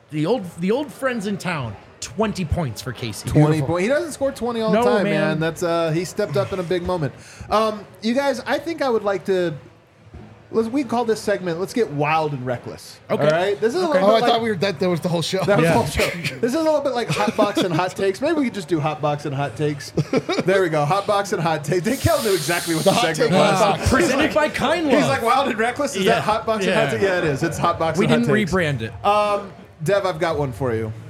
the old friends in town. 20 points for Casey. 20 points. He doesn't score 20 all the time, man. man. That's he stepped up in a big moment. You guys, I think I would like to. We call this segment. Let's get wild and reckless. Okay. All right. This is a little Oh, bit I thought we were that was the whole show. That was the whole show. This is a little bit like hot box and hot takes. Maybe we could just do hot box and hot takes. There we go. Hot box and hot takes. Kel knew exactly what the segment was. Presented by Kind Love. He's like wild and reckless. Is that hot box and hot takes? Yeah, it is. It's hot box. We and hot didn't takes. rebrand it. Dev, I've got one for you.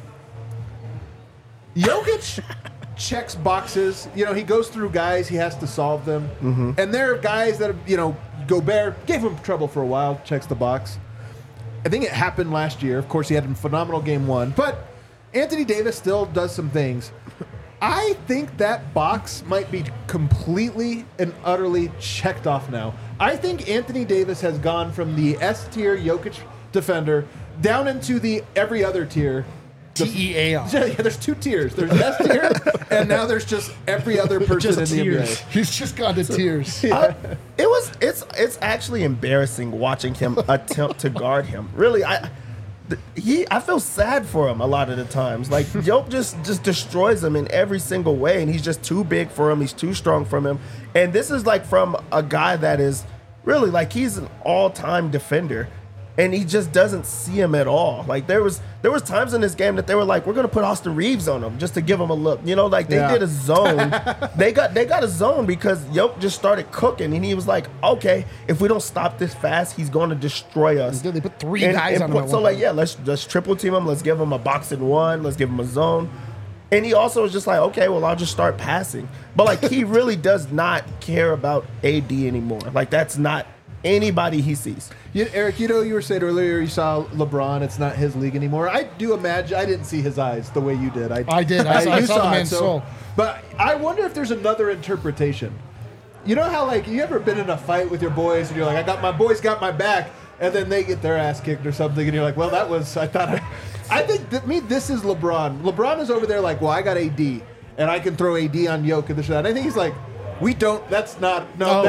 Jokic checks boxes. You know, he goes through guys. He has to solve them. Mm-hmm. And there are guys that, Gobert gave him trouble for a while, checks the box. I think it happened last year. Of course, he had a phenomenal game one. But Anthony Davis still does some things. I think that box might be completely and utterly checked off now. I think Anthony Davis has gone from the S-tier Jokic defender down into the every other tier. TEAR. Yeah, there's 2 tiers. There's S tier, and now there's just every other person in the NBA. He's just gone to tears. It's actually embarrassing watching him attempt to guard him. Really, I feel sad for him a lot of the times. Like Jokic just destroys him in every single way, and he's just too big for him. He's too strong for him. And this is like from a guy that is really like he's an all-time defender. And he just doesn't see him at all. Like there was times in this game that they were like, we're gonna put Austin Reeves on him just to give him a look. Like they did a zone. they got a zone because Jokic just started cooking, and he was like, okay, if we don't stop this fast, he's going to destroy us. They put 3 guys on him. So let's triple team him. Let's give him a box and one. Let's give him a zone. And he also was just like, okay, well, I'll just start passing. But like he really does not care about AD anymore. Like that's not anybody he sees. Eric, you were saying earlier you saw LeBron. It's not his league anymore. I do imagine. I didn't see his eyes the way you did. I did. I saw the man's soul. But I wonder if there's another interpretation. You know how you ever been in a fight with your boys and you're like, my boys got my back, and then they get their ass kicked or something, and you're like, well, that was. I think this is LeBron. LeBron is over there like, well, I got AD, and I can throw AD on Jokic and this and that. I think he's like. We don't. That's not.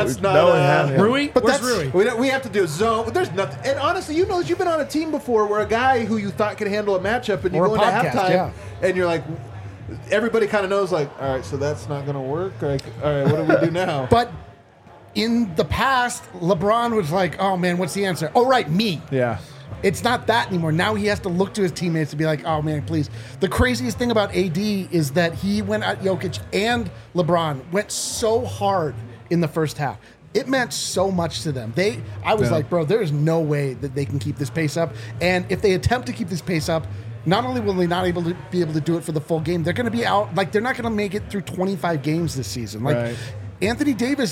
Rui. But where's Rui? We have to do a zone. There's nothing. And honestly, you've been on a team before where a guy who you thought could handle a matchup, and you go into halftime, and you're like, everybody kind of knows, like, all right, so that's not going to work. Like, all right, what do we do now? But in the past, LeBron was like, oh man, what's the answer? Oh right, me. Yeah. It's not that anymore. Now he has to look to his teammates to be like, oh man, please. The craziest thing about AD is that he went at Jokic and LeBron went so hard in the first half. It meant so much to them. I was like, bro, there is no way that they can keep this pace up. And if they attempt to keep this pace up, not only will they not be able to do it for the full game, they're going to be out. Like they're not going to make it through 25 games this season. Like Anthony Davis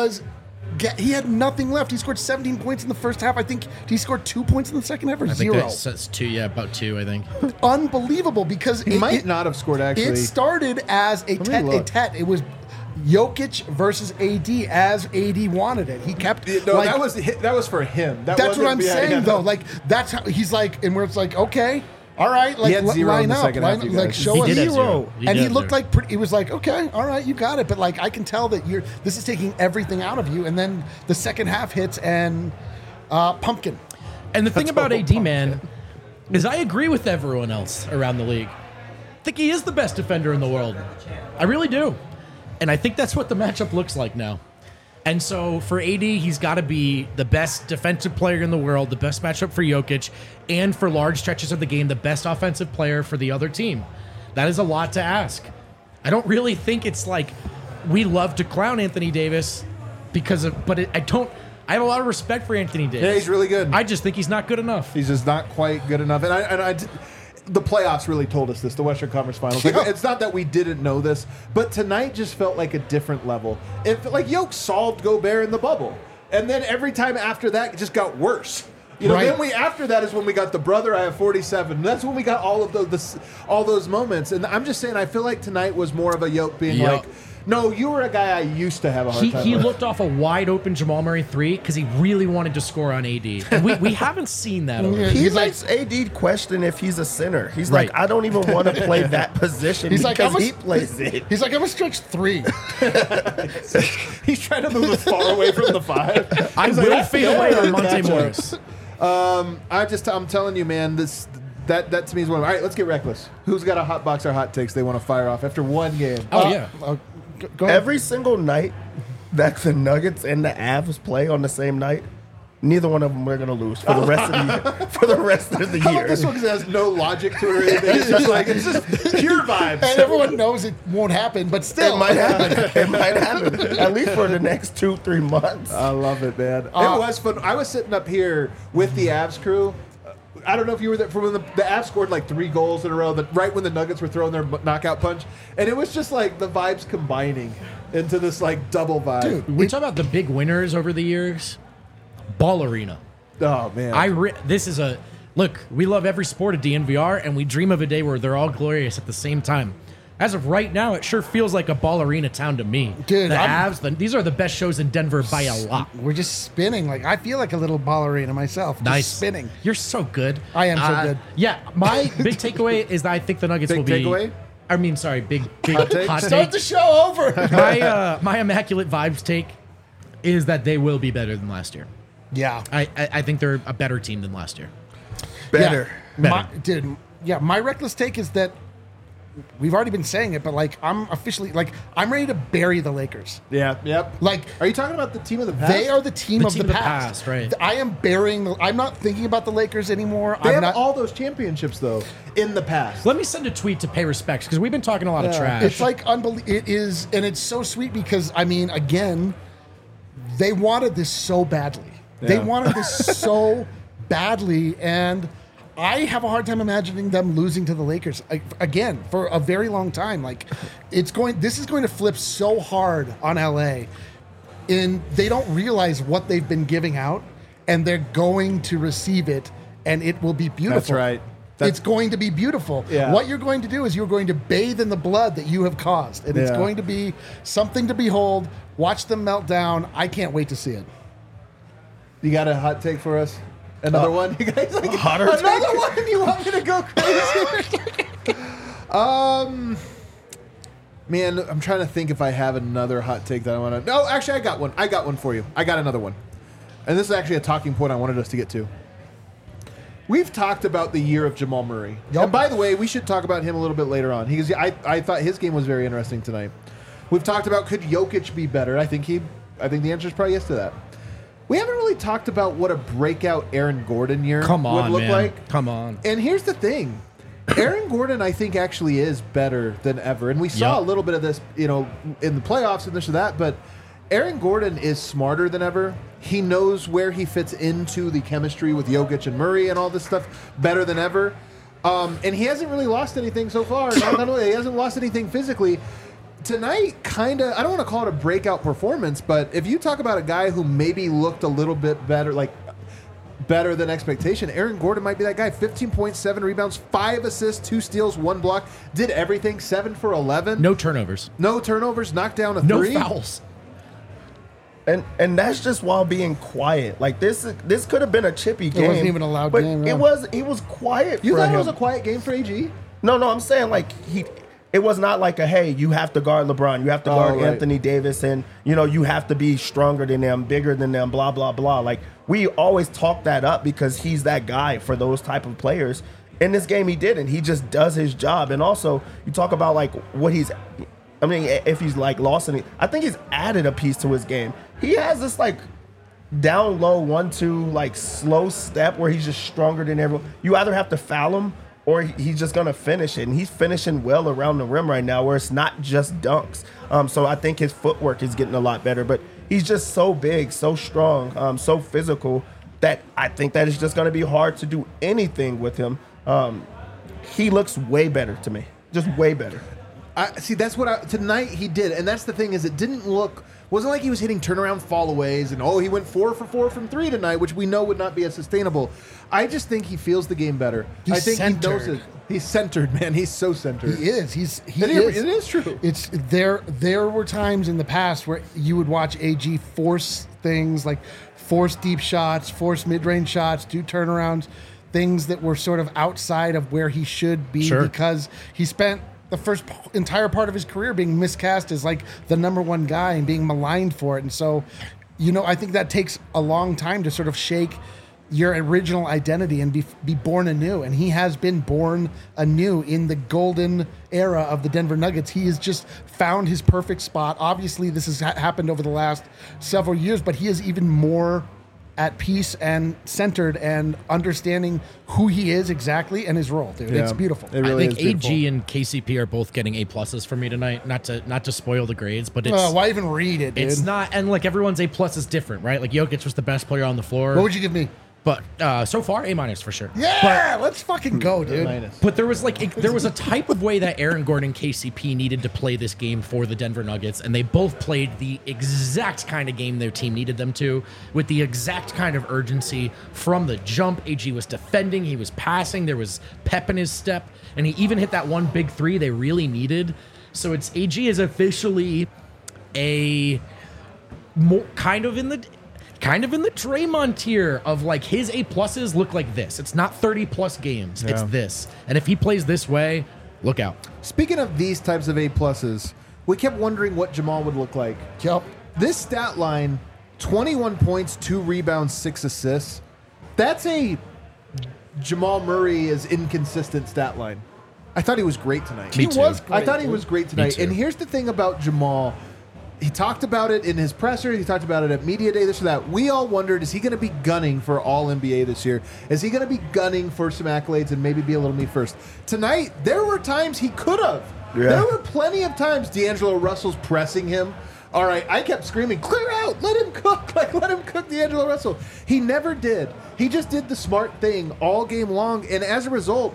he had nothing left. He scored 17 points in the first half. I think he scored 2 points in the second half or 0. That's 2, about 2, I think. Unbelievable because he might not have scored actually. It started as a tete. It was Jokic versus AD as AD wanted it. He kept that was for him. That's what I'm saying though. Like that's how he's like, and where it's like, okay. All right, like line up, show us 0, and he looked like he was like, okay, all right, you got it. But like, I can tell that this is taking everything out of you. And then the second half hits and pumpkin. And the thing about AD, man, is I agree with everyone else around the league. I think he is the best defender in the world. I really do, and I think that's what the matchup looks like now. And so for AD, he's got to be the best defensive player in the world, the best matchup for Jokic, and for large stretches of the game, the best offensive player for the other team. That is a lot to ask. I don't really think it's like we love to clown Anthony Davis I have a lot of respect for Anthony Davis. Yeah, he's really good. I just think he's not good enough. He's just not quite good enough. The playoffs really told us this, the Western Conference Finals. Like, it's not that we didn't know this, but tonight just felt like a different level. It felt like Jokic solved Gobert in the bubble. And then every time after that, it just got worse. Then after that is when we got the brother, I have 47. That's when we got all of those moments. And I'm just saying, I feel like tonight was more of a Jokic being like, no, you were a guy I used to have a hard time He with. looked off a wide open Jamal Murray 3 because he really wanted to score on AD. And we haven't seen that. He makes AD question if he's a center. He's like, I don't even want to play that position because he plays it. He's like, I'm a stretch 3. He's trying to move as far away from the 5. I will fade away on Monte Morris. I'm telling you, man, That to me is one of them. All right, let's get reckless. Who's got a hot box or hot takes they want to fire off after one game? Oh, yeah. Go ahead. Every single night that the Nuggets and the Avs play on the same night, neither one of them are going to lose for the rest of the year. For the rest of the How year. about this one because it has no logic to it or anything? It's just pure vibes. And everyone knows it won't happen, but still. It might happen. It might happen. At least for the next 2-3 months. I love it, man. It was fun. I was sitting up here with the Avs crew. I don't know if you were there for when the Avs scored like 3 goals in a row, right when the Nuggets were throwing their knockout punch. And it was just like the vibes combining into this like double vibe. Dude, We talk about the big winners over the years. Ball Arena. Oh, man. This is a look. We love every sport at DNVR, and we dream of a day where they're all glorious at the same time. As of right now, it sure feels like a Ball Arena town to me. Dude, the Avs. These are the best shows in Denver by a lot. We're just spinning. Like I feel like a little ballerina myself. Nice Just spinning. You're so good. I am so good. Yeah, my big takeaway is that I think the Nuggets Big will be. takeaway? I mean, sorry, big Hot take? hot Start take. the show over. My immaculate vibes take is that they will be better than last year. Yeah. I think they're a better team than last year. Better. Yeah. My reckless take is that we've already been saying it, but like I'm officially like I'm ready to bury the Lakers. Yeah, yep. Like Are you talking about the team of the past? they are the team of the past. right? I am burying. I'm not thinking about the Lakers anymore. They I'm have not. all those championships, though, in the past. Let me send a tweet to pay respects because we've been talking a lot of trash. It's like unbelievable. It is, and it's so sweet because I mean, again, they wanted this so badly. They Yeah. wanted this so badly, and I have a hard time imagining them losing to the Lakers again for a very long time. Like, this is going to flip so hard on LA, and they don't realize what they've been giving out, and they're going to receive it, and it will be beautiful. That's right. It's going to be beautiful. Yeah. What you're going to do is you're going to bathe in the blood that you have caused, and it's Yeah. going to be something to behold. Watch them melt down. I can't wait to see it. You got a hot take for us? Another one? You guys like Hotter another take? one? You want me to go crazy? Man, I'm trying to think if I have another hot take that I want to. No, actually, I got one. I got one for you. I got another one. And this is actually a talking point I wanted us to get to. We've talked about the year of Jamal Murray. Yep. And by the way, we should talk about him a little bit later on. I thought his game was very interesting tonight. We've talked about could Jokic be better? I think the answer is probably yes to that. We haven't really talked about what a breakout Aaron Gordon year would look like. Come on. And here's the thing. Aaron Gordon, I think, actually is better than ever. And we saw Yep. a little bit of this, in the playoffs and this or that. But Aaron Gordon is smarter than ever. He knows where he fits into the chemistry with Jokic and Murray and all this stuff better than ever. And he hasn't really lost anything so far. Not only he hasn't lost anything physically. Tonight, kind of, I don't want to call it a breakout performance, but if you talk about a guy who maybe looked a little bit better, like better than expectation, Aaron Gordon might be that guy. 15.7 rebounds, 5 assists, 2 steals, 1 block, did everything, 7 for 11. No turnovers. No turnovers, knocked down a No 3. fouls. And that's just while being quiet. Like this could have been a chippy game. wasn't even a loud but game, It no. was quiet You for thought him. it was a quiet game for AG? No, I'm saying like it was not like a hey, you have to guard LeBron, you have to guard right. Anthony Davis, and you have to be stronger than them, bigger than them, blah blah blah. Like we always talk that up because he's that guy for those type of players. In this game, he didn't. He just does his job, and also you talk about like what he's. I mean, if he's like lost any, I think he's added a piece to his game. He has this like down low 1-2 like slow step where he's just stronger than everyone. You either have to foul him or he's just gonna finish it, and he's finishing well around the rim right now, where it's not just dunks. So I think his footwork is getting a lot better, but he's just so big, so strong, so physical that I think that it's just gonna be hard to do anything with him. He looks way better to me, just way better. See, that's what tonight he did, and that's the thing is it wasn't like he was hitting turnaround fallaways and he went 4 for 4 from 3 tonight, which we know would not be as sustainable. I just think he feels the game better. I think he knows it. He's centered, man. He's so centered. He is. He It is. is true. It's there were times in the past where you would watch AG force things like force deep shots, force mid-range shots, do turnarounds, things that were sort of outside of where he should be because he spent the first entire part of his career being miscast as like the number one guy and being maligned for it. And so, I think that takes a long time to sort of shake your original identity and be born anew. And he has been born anew in the golden era of the Denver Nuggets. He has just found his perfect spot. Obviously, this has happened over the last several years, but he is even more at peace and centered and understanding who he is exactly and his role, dude. Yeah. It's beautiful. It really I think AG and KCP are both getting A+ for me tonight. Not to spoil the grades, but it's why even read it, dude? It's not, and like everyone's A+ is different, right? Like Jokic was the best player on the floor. What would you give me? But so far, A- for sure. Yeah, let's fucking go, dude. But there was a type of way that Aaron Gordon and KCP needed to play this game for the Denver Nuggets, and they both played the exact kind of game their team needed them to, with the exact kind of urgency from the jump. AG was defending, he was passing, there was pep in his step, and he even hit that one big three they really needed. So it's AG is officially a more kind of in the Draymond tier of like his A+ look like this. It's not 30+ games. Yeah. It's this. And if he plays this way, look out. Speaking of these types of A+, we kept wondering what Jamal would look like. Yep. This stat line, 21 points, 2 rebounds, 6 assists. That's a Jamal Murray is inconsistent stat line. I thought he was great tonight. Me too. I thought he was great tonight. And here's the thing about Jamal. He talked about it in his presser. He talked about it at Media Day, this or that. We all wondered, is he going to be gunning for All-NBA this year? Is he going to be gunning for some accolades and maybe be a little me first? Tonight, there were times he could have. Yeah. There were plenty of times D'Angelo Russell's pressing him. All right, I kept screaming, clear out, let him cook. Like, let him cook D'Angelo Russell. He never did. He just did the smart thing all game long. And as a result,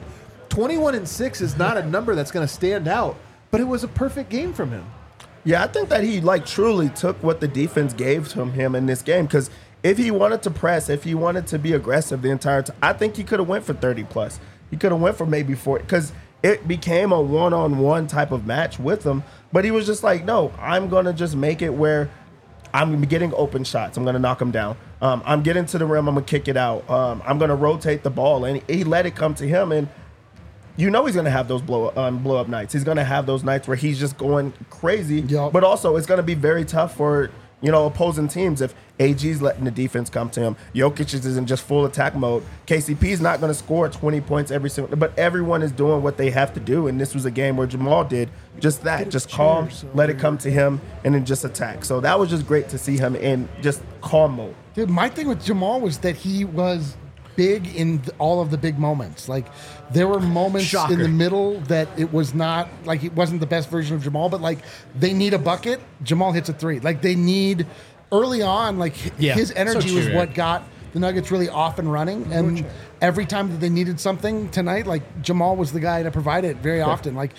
21-6 is not a number that's going to stand out. But it was a perfect game from him. Yeah, I think that he truly took what the defense gave to him in this game, because if he wanted to press, if he wanted to be aggressive the entire time, I think he could have went for 30+. He could have went for maybe 40, because it became a one-on-one type of match with him. But he was just like, no, I'm going to just make it where I'm getting open shots. I'm going to knock him down. I'm getting to the rim. I'm going to kick it out. I'm going to rotate the ball. And he let it come to him, and you know he's going to have those blow up nights. He's going to have those nights where he's just going crazy. Yep. But also, it's going to be very tough for opposing teams if AG's letting the defense come to him. Jokic is in just full attack mode. KCP's not going to score 20 points every single, but everyone is doing what they have to do. And this was a game where Jamal did just that, just calm, let it come to him, and then just attack. So that was just great to see him in just calm mode. Dude, my thing with Jamal was that he was big in all of the big moments. Like, there were moments in the middle that it was not, like, it wasn't the best version of Jamal, but like, they need a bucket, Jamal hits a three. Like, they need early on, like, his energy was what got the Nuggets really off and running. And every time that they needed something tonight, like, Jamal was the guy to provide it very often. Like,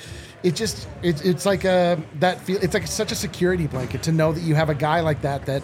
it's like it's like such a security blanket to know that you have a guy like that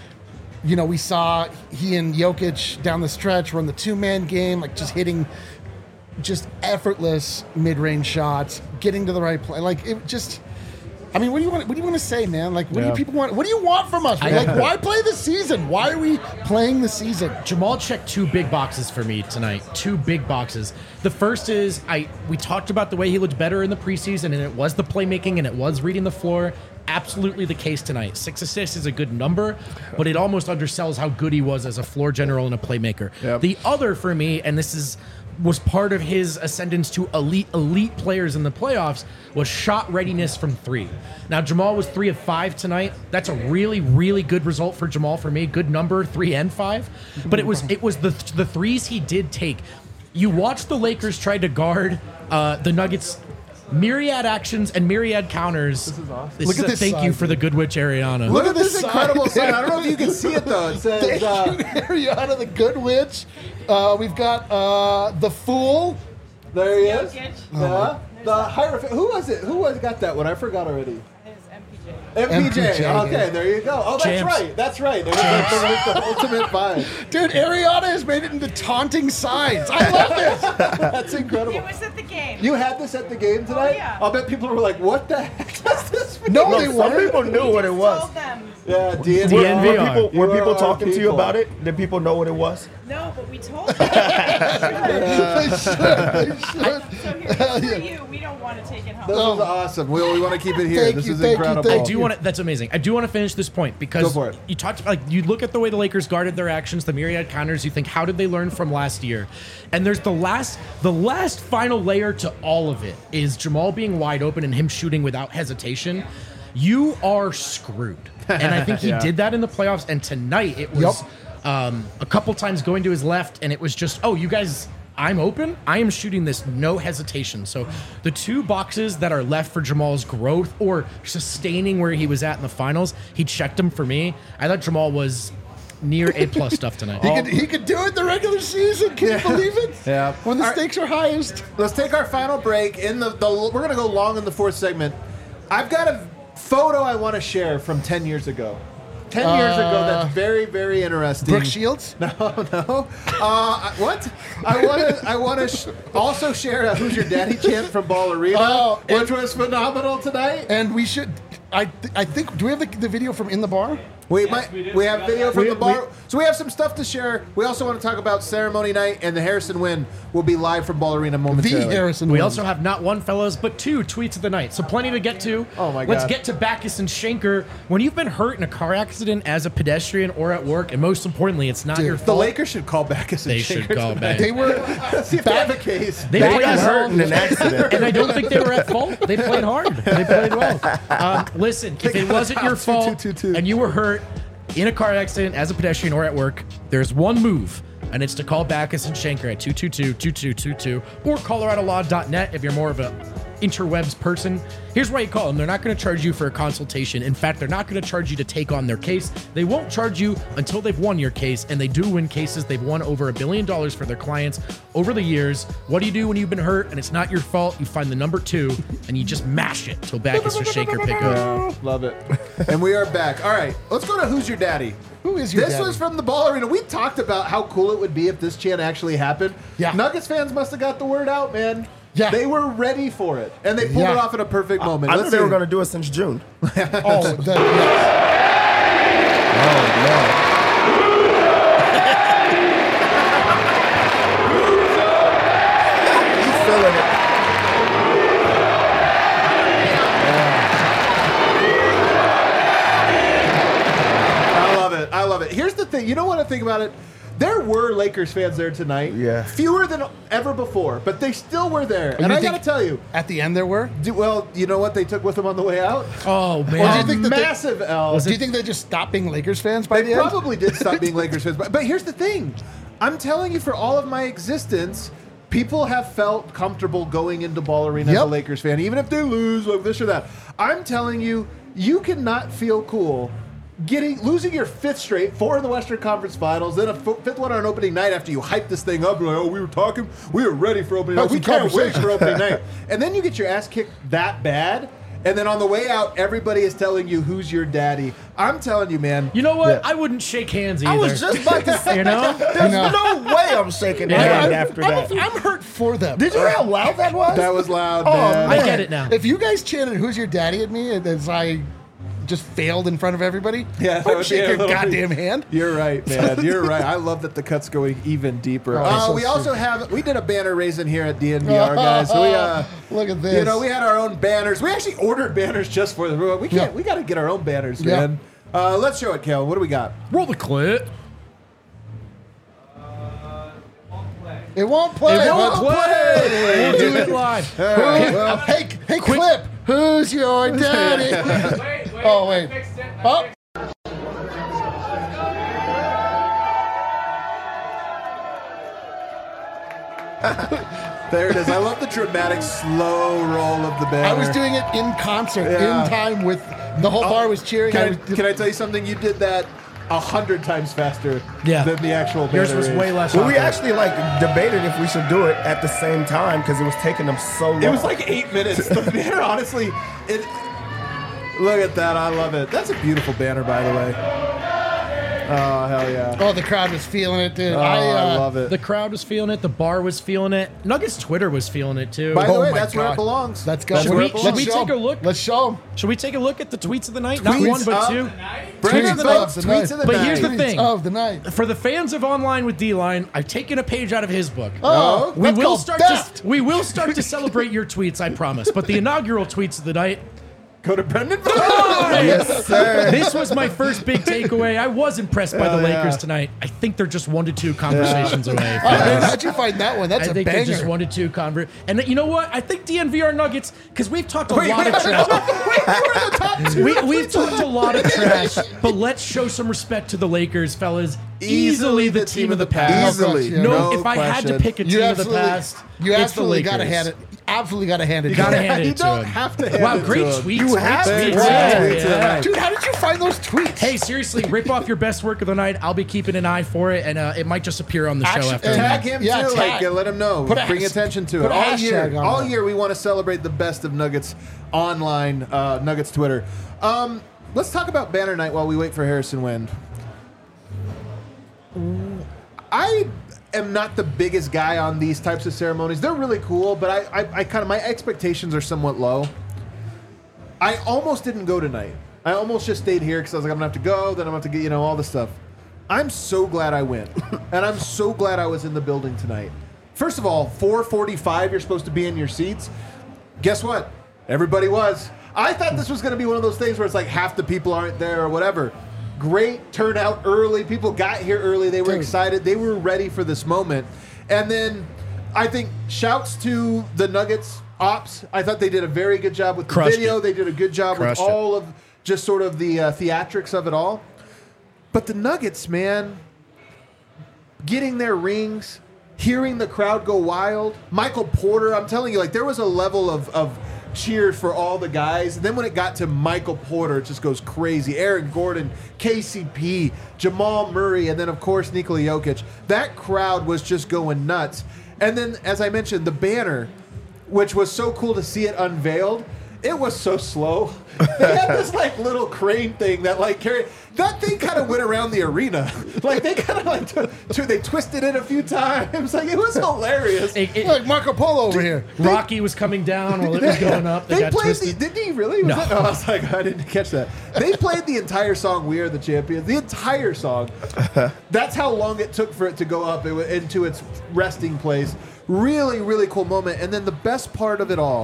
we saw he and Jokic down the stretch run the two-man game, like just hitting just effortless mid-range shots, getting to the right play. Like, it just, I mean, what do you want to say, man? Like, what do people want? What do you want from us? Like, why play the season? Why are we playing the season? Jamal checked 2 big boxes for me tonight. 2 big boxes. The first is we talked about the way he looked better in the preseason, and it was the playmaking and it was reading the floor. Absolutely the case tonight. 6 assists is a good number, but it almost undersells how good he was as a floor general and a playmaker. Yep. The other for me, and this was part of his ascendance to elite players in the playoffs, was shot readiness from 3. Now, Jamal was 3 of 5 tonight. That's a really, really good result for Jamal for me. Good number, 3 and 5. But it was the threes he did take. You watch the Lakers try to guard the Nuggets' myriad actions and myriad counters. This is awesome. Look at this. Thank you for the Good Witch Ariana. Look at this incredible sign. I don't know if you can see it though. It says Ariana, the Good Witch. We've got the Fool. There he is. The Hierophant. Who was it? Who got that one? I forgot already. MPJ. Okay, there you go. Oh, that's right. That's right. There's the ultimate vibe. Dude, Ariana has made it into taunting signs. I love this. That's incredible. It was at the game. You had this at the game tonight? Oh, yeah. I'll bet people were like, what the heck does this mean? No, some people knew what it was. Told them. Yeah, DNVR. Were people talking to you about it? Did people know what it was? No, but we told them. They should. So here's for you. We don't want to take it home. This is awesome. We want to keep it here. This is incredible. I do want to. That's amazing. I do want to finish this point because Go for it. you talked like you look at the way the Lakers guarded their actions, the myriad counters. You think, how did they learn from last year? And there's the last final layer to all of it is Jamal being wide open and him shooting without hesitation. You are screwed, and I think he did that in the playoffs. And tonight it was a couple times going to his left, and it was just, oh, you guys. I'm open. I am shooting this, no hesitation. So the two boxes that are left for Jamal's growth or sustaining where he was at in the finals, he checked them for me. I thought Jamal was near A+ stuff tonight. He could do it in the regular season. Can you believe it? Yeah. When the stakes are highest. Let's take our final break. We're going to go long in the fourth segment. I've got a photo I want to share from 10 years ago. 10 years ago, that's very, very interesting. Brooke Shields? No. What? I want to also share a Who's Your Daddy chant from Ball Arena, which was phenomenal tonight. And we should, I think, do we have the video from In the Bar? We have video from the bar. So we have some stuff to share. We also want to talk about ceremony night, and the Harrison win will be live from Ball Arena momentarily. The Harrison win. We also have not one, fellas, but two tweets of the night. So plenty to get to. Oh, my God. Let's get to Backus and Schenker. When you've been hurt in a car accident as a pedestrian or at work, and most importantly, it's not your The fault. Lakers should call Backus and They Schenker should call tonight. back. They were See if they have a case. They played hurt in hard. an accident. And I don't think they were at fault. They played hard. They played well. Listen, if it wasn't your fault and you were hurt in a car accident as a pedestrian or at work, there's one move, and it's to call Backus and Schenker at 222-2222 or coloradolaw.net if you're more of a interwebs person. Here's why you call them. They're not going to charge you for a consultation. In fact, they're not going to charge you to take on their case. They won't charge you until they've won your case, and they do win cases. They've won over $1 billion for their clients over the years. What do you do when you've been hurt and it's not your fault? You find the number 2 and you just mash it till Backus or Schenker pick up. Love it. And we are back. All right, let's go to Who's Your Daddy? Who is your This daddy? was from the Ball Arena. We talked about how cool it would be if this chant actually happened. Yeah. Nuggets fans must have got the word out, man. Yeah. They were ready for it, and they pulled it off in a perfect moment. I knew Let's they see. were going to do it since June. Oh, You feeling it? I love it. Here's the thing. You know what I think about it? There were Lakers fans there tonight. Yeah. Fewer than ever before, but they still were there. And you I got to think tell you, at the end there were? well, you know what they took with them on the way out? Oh, man. Or do you think that Massive L. Do you think they just stopped being Lakers fans by They the end? probably did stop being Lakers fans. But here's the thing. I'm telling you, for all of my existence, people have felt comfortable going into Ball Arena as a Yep. Lakers fan, even if they lose, like this or that. I'm telling you, you cannot feel cool losing your 5th straight, 4 in the Western Conference Finals, then a 5th one on opening night after you hype this thing up. You're like, oh, we were ready for opening night. That's We a can't wait conversation. for opening night. And then you get your ass kicked that bad. And then on the way out, everybody is telling you who's your daddy. I'm telling you, man. You know what? Yeah. I wouldn't shake hands either. I was just about to say, You know? there's no way I'm shaking hand after that. I'm hurt for them. Did you hear how loud that was? That was loud, Oh, man. I get it now. If you guys chanted "Who's your daddy" at me as I just failed in front of everybody, Yeah, that would I'd be shake a your little bit- goddamn hand. You're right, man. You're right. I love that the cut's going even deeper. so We also we did a banner raising here at DNVR, guys. So we, Look at this. You know, we had our own banners. We actually ordered banners just for the room. We can't. Yeah. We got to get our own banners, Yeah. man. Let's show it, Kel. What do we got? Roll the clip. It won't play. It won't but- play. We'll do it live. Hey, Clip. Who's your daddy? Oh, wait. Oh. There it is. I love the dramatic slow roll of the banner. I was doing it in concert, Yeah. in time with the whole bar was cheering. Can I tell you something? You did that 100 times faster than the actual banner. Yours was is. way less. Well, we awkward. actually debated if we should do it at the same time because it was taking them so long. It was like 8 minutes. The banner, honestly, look at that. I love it. That's a beautiful banner, by the way. Oh, hell yeah. Oh, the crowd was feeling it, dude. Oh, I love it. The crowd was feeling it. The bar was feeling it. Nuggets Twitter was feeling it too. By the Oh way, my that's where God. it belongs. Let's go. That's Should where we- it belongs. should we take a look? Let's show them. Should we take a look at the tweets of the night? Not Tweets one, but of 2. Bring Tweets it, of the folks. night. Tweets of the But night. here's the thing. Of the night. For the fans of Online with D-Line, I've taken a page out of his book. Oh, we that's will called start theft. to celebrate your tweets, I promise. But the inaugural tweets of the night, Go to Brendan. Yes, sir. This was my first big takeaway. I was impressed by the Lakers tonight. I think they're just 1-2 conversations away. Man, how'd you find that one? That's I a think banger. they're just 1-2 And you know what? I think DNV are Nuggets because we've talked a lot of trash. We've talked a lot of trash, but let's show some respect to the Lakers, fellas. Easily the team of the past. Easily. No, if I had to pick a team of the past, you it's the absolutely Lakers. got to hand it. Absolutely got to hand it. You gotta to hand You it to don't him. have to hand Wow, it great to him. tweets. You have great to. tweets. Yeah. Yeah. Dude, how did you find those tweets? Hey, seriously, rip off your best work of the night. I'll be keeping an eye for it, and it might just appear on the show Actually, after. Tag him Yeah, too. tag. Let him know. Put a Bring has- attention to put it. a hashtag on All that. year, we want to celebrate the best of Nuggets online, Nuggets Twitter. Let's talk about Banner Night while we wait for Harrison Wind. I am not the biggest guy on these types of ceremonies. They're really cool, but I kind of, my expectations are somewhat low. I almost didn't go tonight. I almost just stayed here because I was like, I'm gonna have to go, then I'm gonna have to get, all this stuff. I'm so glad I went, and I'm so glad I was in the building tonight. First of all, 4:45, you're supposed to be in your seats. Guess what? Everybody was. I thought this was gonna be one of those things where it's like half the people aren't there or whatever. Great turnout early. People got here early. They were excited. They were ready for this moment. And then I think shouts to the Nuggets ops. I thought they did a very good job with the video. They did a good job with all of just sort of the theatrics of it all. But the Nuggets, man, getting their rings, hearing the crowd go wild. Michael Porter, I'm telling you, like there was a level of cheer for all the guys. And then when it got to Michael Porter, it just goes crazy. Aaron Gordon, KCP, Jamal Murray, and then, of course, Nikola Jokic. That crowd was just going nuts. And then, as I mentioned, the banner, which was so cool to see it unveiled, it was so slow. They had this, like, little crane thing that, like, carried... That thing kind of went around the arena. Like, they kind of, like, they twisted it a few times. Like, it was hilarious. Like Marco Polo over here. Rocky was coming down while it was going up. They got played twisted. didn't he really? No. I was like, I didn't catch that. They played the entire song, We Are the Champions. The entire song. That's how long it took for it to go up into its resting place. Really, really cool moment. And then the best part of it all,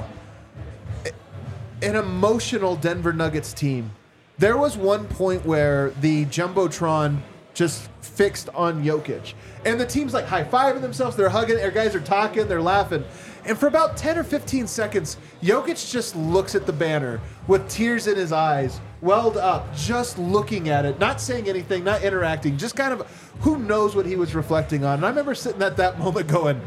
an emotional Denver Nuggets team. There was one point where the Jumbotron just fixed on Jokic. And the team's like high-fiving themselves. They're hugging. Their guys are talking. They're laughing. And for about 10 or 15 seconds, Jokic just looks at the banner with tears in his eyes, welled up, just looking at it, not saying anything, not interacting, just kind of who knows what he was reflecting on. And I remember sitting at that moment going,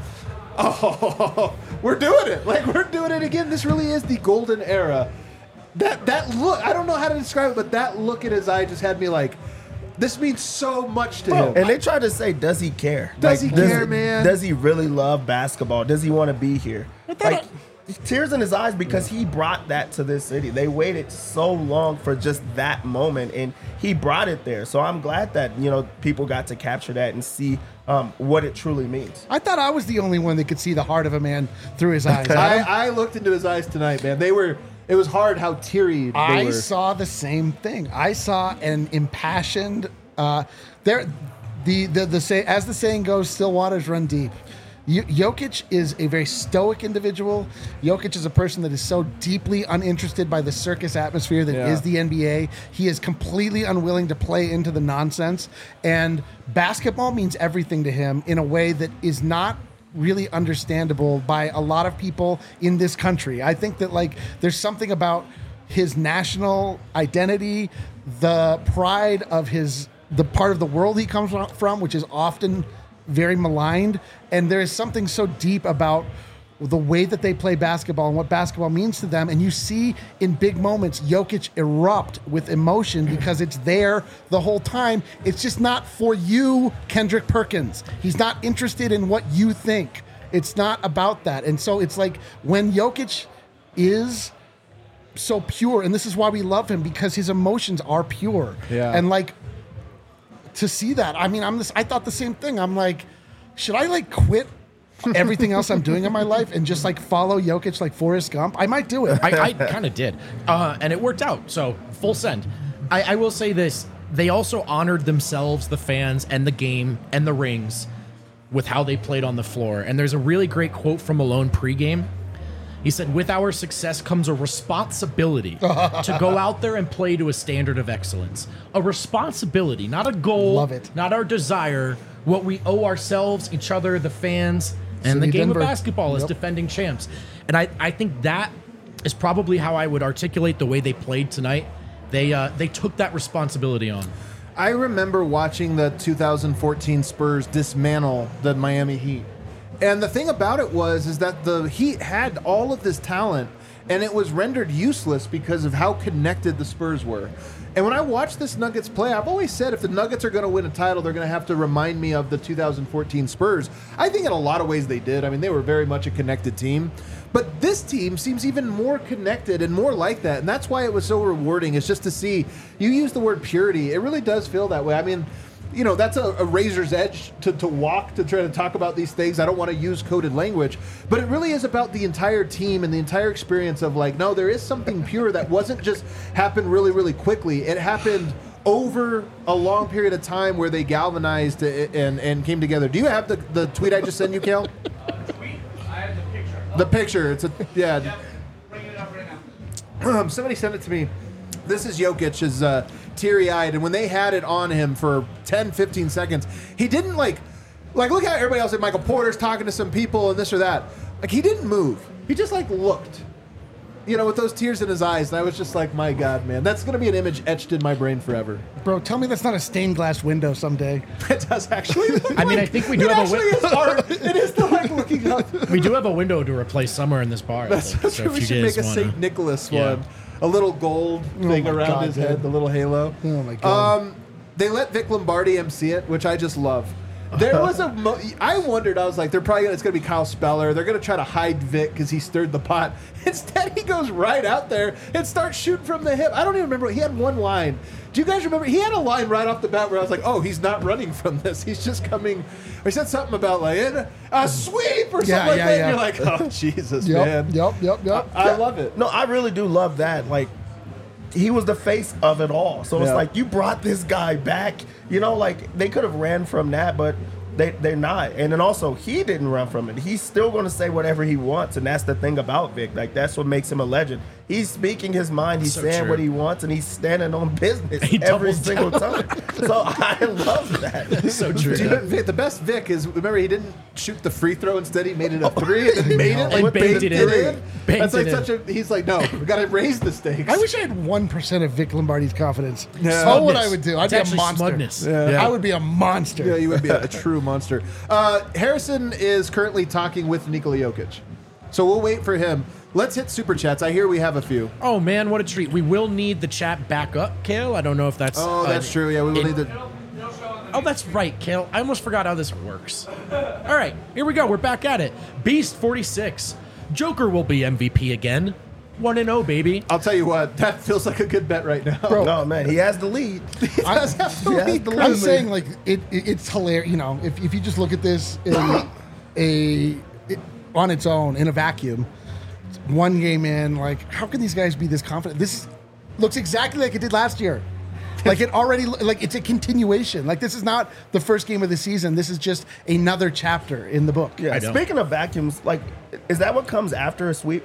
oh, we're doing it. Like, we're doing it again. This really is the golden era. That look, I don't know how to describe it, but that look in his eye just had me like, this means so much to him. And they tried to say, does he care? Does he care, man? Does he really love basketball? Does he want to be here? Like, tears in his eyes because he brought that to this city. They waited so long for just that moment, and he brought it there. So I'm glad that, people got to capture that and see what it truly means. I thought I was the only one that could see the heart of a man through his eyes. I looked into his eyes tonight, man. It was hard how teary they were. I saw the same thing. I saw an impassioned. As the saying goes, still waters run deep. Jokic is a very stoic individual. Jokic is a person that is so deeply uninterested by the circus atmosphere that is the NBA. He is completely unwilling to play into the nonsense. And basketball means everything to him in a way that is not really understandable by a lot of people in this country. I think that there's something about his national identity, the pride of the part of the world he comes from, which is often very maligned. And there is something so deep about the way that they play basketball and what basketball means to them. And you see in big moments, Jokic erupt with emotion because it's there the whole time. It's just not for you, Kendrick Perkins. He's not interested in what you think. It's not about that. And so it's like when Jokic is so pure, and this is why we love him, because his emotions are pure. Yeah. And to see that, I mean, I thought the same thing. I'm like, should I quit everything else I'm doing in my life and just follow Jokic like Forrest Gump? I might do it. I kind of did. And it worked out. So full send. I will say this. They also honored themselves, the fans, and the game and the rings with how they played on the floor. And there's a really great quote from Malone pregame. He said, with our success comes a responsibility to go out there and play to a standard of excellence. A responsibility, not a goal, Love it. not our desire, what we owe ourselves, each other, the fans, and City the game Denver. of basketball as Yep. defending champs. And I think that is probably how I would articulate the way they played tonight. They took that responsibility on. I remember watching the 2014 Spurs dismantle the Miami Heat. And the thing about it is that the Heat had all of this talent, and it was rendered useless because of how connected the Spurs were. And when I watch this Nuggets play, I've always said if the Nuggets are going to win a title, they're going to have to remind me of the 2014 Spurs. I think in a lot of ways they did. I mean, they were very much a connected team. But this team seems even more connected and more like that. And that's why it was so rewarding, is just to see, you use the word purity. It really does feel that way. I mean, you know, that's a razor's edge to walk to try to talk about these things. I don't want to use coded language, but it really is about the entire team and the entire experience of like, no, there is something pure that wasn't just happened really, really quickly. It happened over a long period of time where they galvanized and came together. Do you have the tweet I just sent you, Kale? The picture. It's a yeah. Bring it up right now. Somebody sent it to me. This is Jokic's teary-eyed, and when they had it on him for 10, 15 seconds, he didn't like look how everybody else, like Michael Porter's talking to some people and this or that. Like, he didn't move. He just like looked, you know, with those tears in his eyes. And I was just like, my God, man, that's going to be an image etched in my brain forever. Bro, tell me that's not a stained glass window someday. It does actually. I mean, I think we do have a It is art. It is the like looking up. We do have a window to replace somewhere in this bar. I That's think. So if we you should guys make a wanna- St. Nicholas Yeah. one. A little gold thing my around God, his dude. head, the little halo. Oh, my God. They let Vic Lombardi MC it, which I just love. There was I wondered, I was like, it's going to be Kyle Speller. They're going to try to hide Vic because he stirred the pot. Instead, he goes right out there and starts shooting from the hip. I don't even remember. He had one line. Do you guys remember? He had a line right off the bat where I was like, oh, he's not running from this. He's just coming. Or he said something about like a sweep or something like that. And you're like, oh, Jesus, man. Yep. I love it. No, I really do love that. Like, he was the face of it all. So it's Yeah. like, you brought this guy back. You know, like, they could have ran from that, but they're not. And then also, he didn't run from it. He's still going to say whatever he wants, and that's the thing about Vic. Like, that's what makes him a legend. He's speaking his mind. He's So saying true. what he wants, and he's standing on business He every doubles single time. So I love that. So true. Do you know, Vic, the best Vic is, remember, he didn't shoot the free throw. Instead, he made it a three and then made it. And Like, banked it in. That's like Banked it such a, he's like, no, we got to raise the stakes. I wish I had 1% of Vic Lombardi's confidence. Yeah. Oh, what I Smugness. would do. I'd It's be a actually monster. smugness. Yeah. I would be a monster. Yeah, you would be a true monster. Harrison is currently talking with Nikola Jokic. So we'll wait for him. Let's hit Super Chats. I hear we have a few. Oh man, what a treat! We will need the chat back up, Kale. I don't know if that's. Oh, that's true. Yeah, we will need the... Oh, that's right, Kale. I almost forgot how this works. All right, here we go. We're back at it. Beast 46. Joker will be MVP again. 1-0, baby. I'll tell you what, that feels like a good bet right now. Bro. No, man, he has the lead. Does have to Yeah, lead the I'm clearly. saying, like, it's hilarious. You know, if you just look at this on its own, in a vacuum, one game in, like, how can these guys be this confident? This looks exactly like it did last year. Like, it already, like, it's a continuation. Like, this is not the first game of the season. This is just another chapter in the book. Yeah, know. speaking of vacuums, like, is that what comes after a sweep?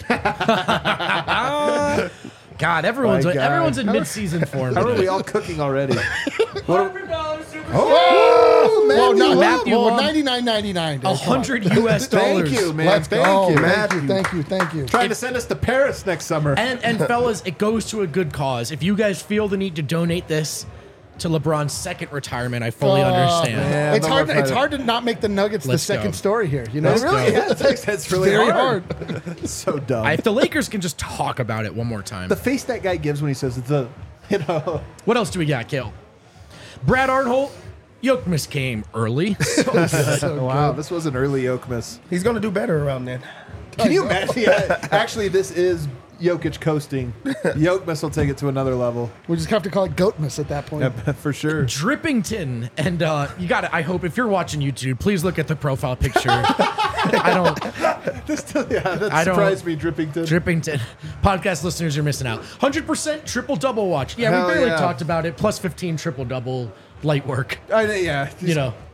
God, everyone's My God. everyone's in mid-season form. How are we all cooking already? $100 super Oh, man. Well, not Matthew well, won $99.99. dude. Come on. $100 US. Thank you, man. Let's Thank go. you. Thank you. Trying to send us to Paris next summer. And fellas, it goes to a good cause. If you guys feel the need to donate this to LeBron's second retirement, I fully understand. man. It's no hard. more It's fighting. hard to not make the Nuggets Let's the second go. story here. You know, It really go. is. It's really very hard. hard. So dumb. If the Lakers can just talk about it one more time. The face that guy gives when he says it's a, you know. What else do we got, Kale? Brad Arnholt, Yokmas came early. So good. Wow, this was an early Jokic. He's going to do better around then. Can you imagine? Yeah, actually, this is Jokic coasting. Jokic will take it to another level. We just have to call it Goatmas at that point. Yeah, for sure. Drippington, and you got it. I hope if you're watching YouTube, please look at the profile picture. I don't. That I don't- surprised me, Drippington. Drippington. Podcast listeners are missing out. 100% triple double watch. Yeah, Hell we barely yeah. talked about it. Plus 15 triple double light work. Yeah. You know.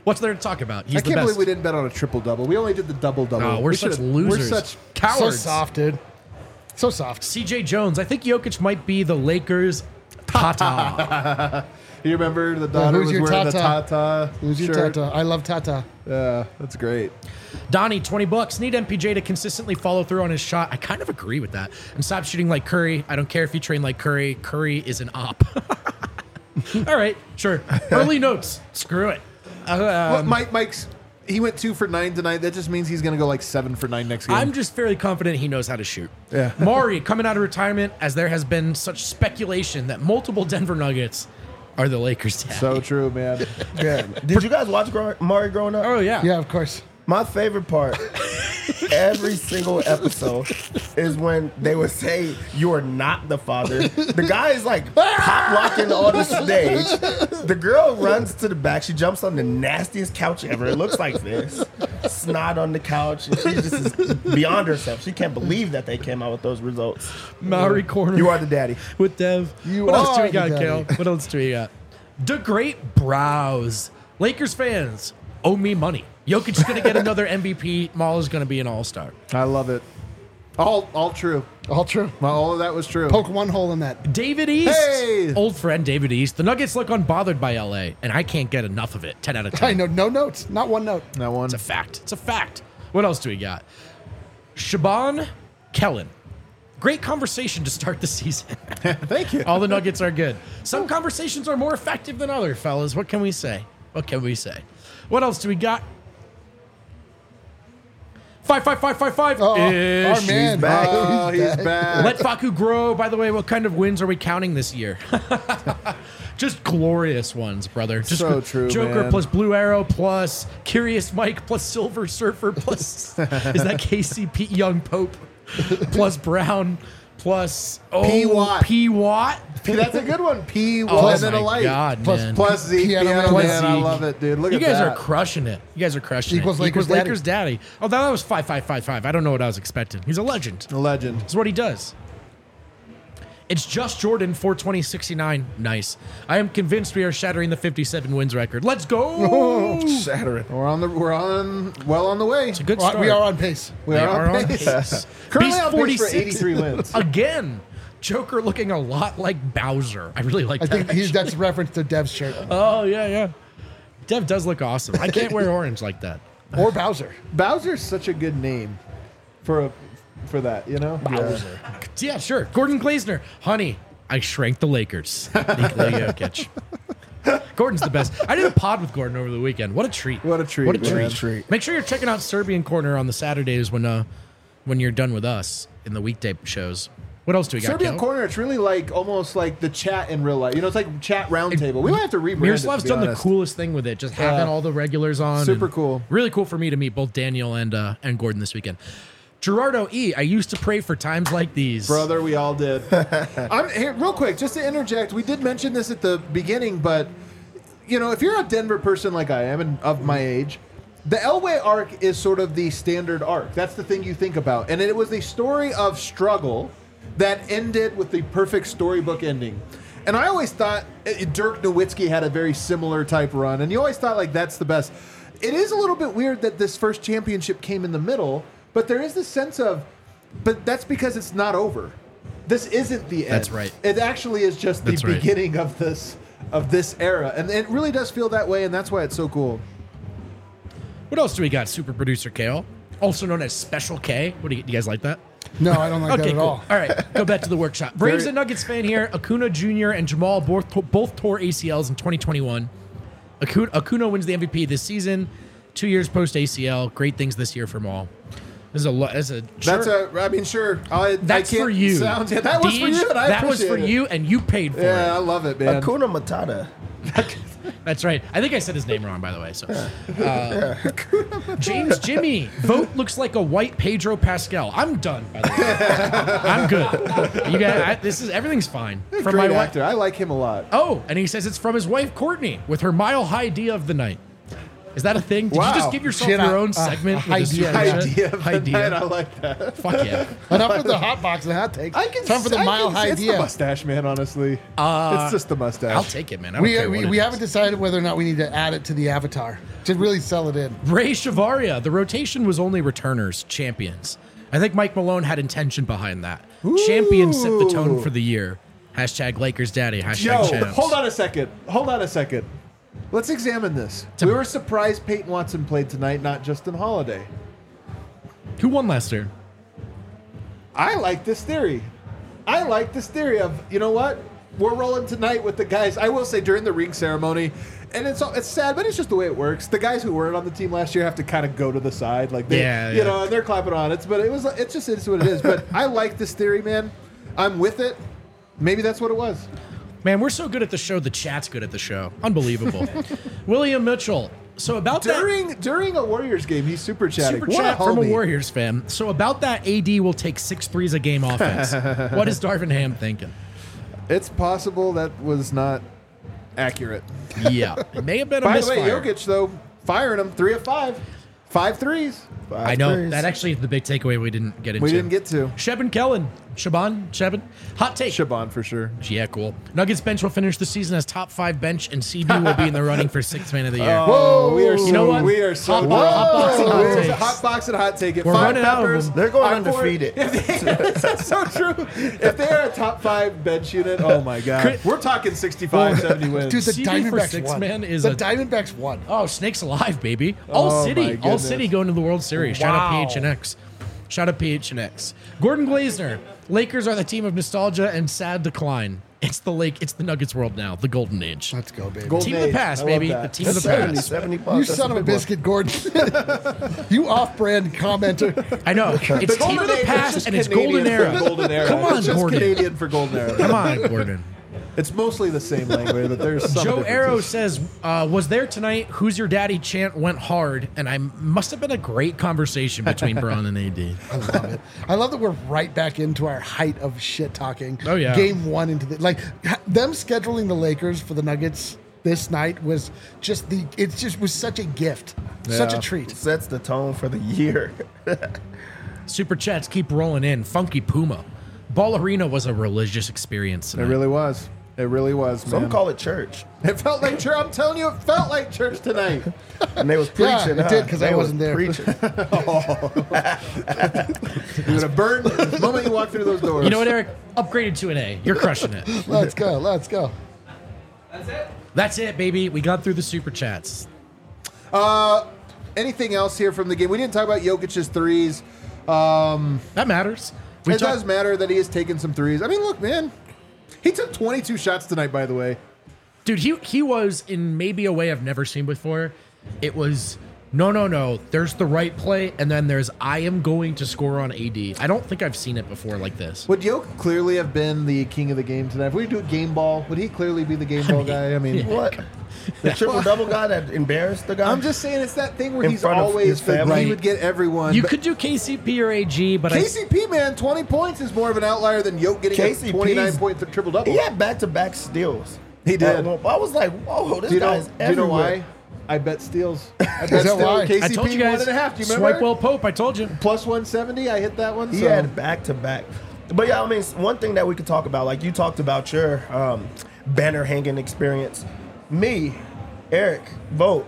What's there to talk about? He's I the can't best. believe we didn't bet on a triple-double. We only did the double-double. Oh, we're such losers. We're such cowards. So soft, dude. So soft. CJ Jones. I think Jokic might be the Lakers' Tata. You remember the daughter who's was your wearing the Tata? Tata Who's your shirt? Tata? I love Tata. Yeah, that's great. Donnie, $20. Need MPJ to consistently follow through on his shot. I kind of agree with that. And stop shooting like Curry. I don't care if you train like Curry. Curry is an op. All right, sure. Early notes. Screw it. Well, Mike's he went 2 for 9 tonight. That just means he's going to go like 7 for 9 next game. I'm just fairly confident he knows how to shoot. Yeah. Maury coming out of retirement, as there has been such speculation that multiple Denver Nuggets are the Lakers' dad. so true, man. Yeah. Did you guys watch Maury growing up? Oh yeah. Yeah, of course. My favorite part, every single episode, is when they would say, "You are not the father." The guy is like pop locking on the stage. The girl runs to the back. She jumps on the nastiest couch ever. It looks like this. Snot on the couch. And she just is beyond herself. She can't believe that they came out with those results. Maury corner. You are the daddy. with Dev. You What else do are we got, the Kale? daddy. What else do we got? The Great Brows. Lakers fans owe me money. Jokic is going to get another MVP. Maul is going to be an all-star. I love it. All true. All true. Well, all of that was true. Poke one hole in that. David East. Hey! Old friend David East. The Nuggets look unbothered by LA, and I can't get enough of it. 10 out of 10. I know, no notes. Not one note. That one. It's a fact. It's a fact. What else do we got? Shaban Kellen. Great conversation to start the season. Thank you. All the Nuggets are good. Some conversations are more effective than other, fellas. What can we say? What can we say? What else do we got? 55555. Oh, Ish. our man. back. Oh, he's back. Let Faku grow. By the way, what kind of wins are we counting this year? Just glorious ones, brother. Just So true, Joker man. plus Blue Arrow plus Curious Mike plus Silver Surfer plus is that KCP Young Pope plus Brown plus P. Watt. P Watt. That's a good one. P. Oh and then my a light. God, Plus- man. Plus Zeke. Piano Piano Man. Man. I Zeke. love it, dude. Look You at guys that. are crushing it. You guys are crushing Equals it. Lakers Lakers daddy. Oh, that was 5555. I don't know what I was expecting. He's a legend. A legend. That's what he does. It's just Jordan 420-69. Nice. I am convinced we are shattering the 57 wins record. Let's go. Shattering. We're on well on the way. It's a good Well, start. we are on pace. We are on pace. Currently Beast on pace for 46. 83 wins. Again, Joker looking a lot like Bowser. I really like I that. think that's a reference to Dev's shirt. Oh, yeah, yeah. Dev does look awesome. I can't wear orange like that. Or Bowser. Bowser's such a good name for that, you know? Bowser. Yeah, sure. Gordon Glazner. Honey, I shrank the Lakers. Nikola Jokic. Gordon's the best. I did a pod with Gordon over the weekend. What a treat. What a treat, What a man. treat. Make sure you're checking out Serbian Corner on the Saturdays when you're done with us in the weekday shows. What else do we got? Serbian Kel? Corner, it's really like almost like the chat in real life. You know, it's like chat roundtable. We might have to rebrand it, Miroslav's to be done honest. the coolest thing with it, just having all the regulars on. Super and cool. Really cool for me to meet both Daniel and Gordon this weekend. Gerardo E., I used to pray for times like these. Brother, we all did. I'm here real quick, just to interject. We did mention this at the beginning, but you know, if you're a Denver person like I am and of my age, the Elway arc is sort of the standard arc. That's the thing you think about, and it was the story of struggle that ended with the perfect storybook ending. And I always thought Dirk Nowitzki had a very similar type run, and you always thought like that's the best. It is a little bit weird that this first championship came in the middle, but there is this sense of, but that's because it's not over. This isn't the end. That's right. It actually is just the That's right. beginning of this era, and it really does feel that way, and that's why it's so cool. What else do we got? Super producer Kale, also known as Special K. What do you guys like that? No, I don't like that Okay, at cool. all. All right, go back to the workshop. Braves and Nuggets fan here. Acuna Jr. and Jamal both tore ACLs in 2021. Acuna wins the MVP this season. 2 years post ACL. Great things this year from all. This is a lot. I mean, sure. That's for you. That was for Deej, you, and I that was for appreciate it. you, and you paid for Yeah, I it. love it, man. Hakuna Matata. That's right. I think I said his name wrong, by the way. So, James Jimmy vote looks like a white Pedro Pascal. I'm done. By the way, I'm good. You guys, everything's fine. From Great my actor. I like him a lot. Oh, and he says it's from his wife Courtney with her Mile High idea of the night. Is that a thing? Did Wow. you just give yourself Shit, your own segment? with the idea. super chat? Idea. I like that. Fuck yeah. Enough with the hot box and hot takes. Time for the mile It's the idea. mustache, man. Honestly, it's just the mustache. I'll take it, man. I don't care what We it haven't is. decided whether or not we need to add it to the avatar to really sell it in. Ray Shavaria. The rotation was only returners, champions. I think Mike Malone had intention behind that. Champions set the tone for the year. Hashtag Lakers Daddy. Hashtag Yo, champs. hold on a second. Let's examine this. We were surprised Peyton Watson played tonight, not Justin Holiday. Who won last year? I like this theory. Of, you know what? We're rolling tonight with the guys. I will say during the ring ceremony, and it's sad, but it's just the way it works. The guys who weren't on the team last year have to kind of go to the side, like they, you know, and they're clapping on it. But it's just what it is. But I like this theory, man. I'm with it. Maybe that's what it was. Man, we're so good at the show. The chat's good at the show. Unbelievable. William Mitchell. So about during a Warriors game, he's super chatting. Super chat from a Warriors fan. So about that, AD will take 6 threes a game offense. What is Darvin Ham thinking? It's possible that was not accurate. Yeah, it may have been a By the way, misfire. Jokic though firing him 3 of 5, 5 threes. I know that actually is the big takeaway we didn't get into. We didn't get to Sheben Kellen. Sheben. Hot take. Shaban for sure. Yeah, cool. Nuggets bench will finish the season as top 5 bench, and CB will be in the running for 6th man of the year. Whoa, we are so, you know what? We are so hot box and hot takes. hot box and hot take it. We're 5 running out of peppers. them. They're going I'm for undefeated. it. That's so true. If they are a top 5 bench unit, oh my god, we're talking 65, 70 wins. Dude, the CB for Diamondbacks 6 won. man is the a Diamondbacks won. Oh, Snakes alive, baby. Oh, All my City goodness. going to the World Series. Shout out Wow. PHNX. Shout out PHNX. Gordon Glazner. Lakers are the team of nostalgia and sad decline. It's the Nuggets world now, the golden age. Let's go, baby. Golden Team of the age. past, I love baby. that. The team of the 70, past. 70 bucks. You That's son of a big one. biscuit, Gordon. You off-brand commenter. I know. It's team Golden of the age, past just and it's Canadian golden era. for golden era. Come on, it's just Gordon. Canadian for golden era. Come on, Gordon. It's mostly the same language, but there's some Joe differences. Arrow says, was there tonight? Who's your daddy chant went hard, and I must have been a great conversation between Braun and AD. I love it. I love that we're right back into our height of shit talking. Oh, yeah. Game 1 into the them scheduling the Lakers for the Nuggets this night was just was such a gift, such a Yeah. treat. Sets the tone for the year. Super chats keep rolling in. Funky Puma. Ball Arena was a religious experience It tonight. really was. It really was, man. Some call it church. It felt like church. I'm telling you, it felt like church tonight. And they was Yeah, preaching. it did, 'cause They I was wasn't there. Preaching. You're gonna burn the moment you walk through those doors. You know what, Eric? Upgraded to an A. You're crushing it. Let's go. Let's go. That's it? That's it, baby. We got through the super chats. Anything else here from the game? We didn't talk about Jokic's threes. That matters. It does matter that he has taken some threes. I mean, look, man. He took 22 shots tonight, by the way. Dude, he was in maybe a way I've never seen before. It was no. There's the right play, and then there's I am going to score on AD. I don't think I've seen it before like this. Would Jokic clearly have been the king of the game tonight? If we do a game ball, would he clearly be the game ball guy? I mean, What? The triple-double guy that embarrassed the guy? I'm just saying it's that thing where In he's front of always his family? he would get everyone. You but could do KCP or AG, but KCP, man, 20 points is more of an outlier than Jokic getting a KCP 29-point triple-double. He had back-to-back steals. He did. I was like, whoa, this Do you know, guy's do you know everywhere. why? I bet steals. I bet that steals. why? KCP I told you guys. 1.5. Do you remember? Swipe well Pope. I told you. Plus 170. I hit that one. He so. had back-to-back. But yeah, I mean, one thing that we could talk about, like you talked about your banner hanging experience. Me, Eric, Vogt,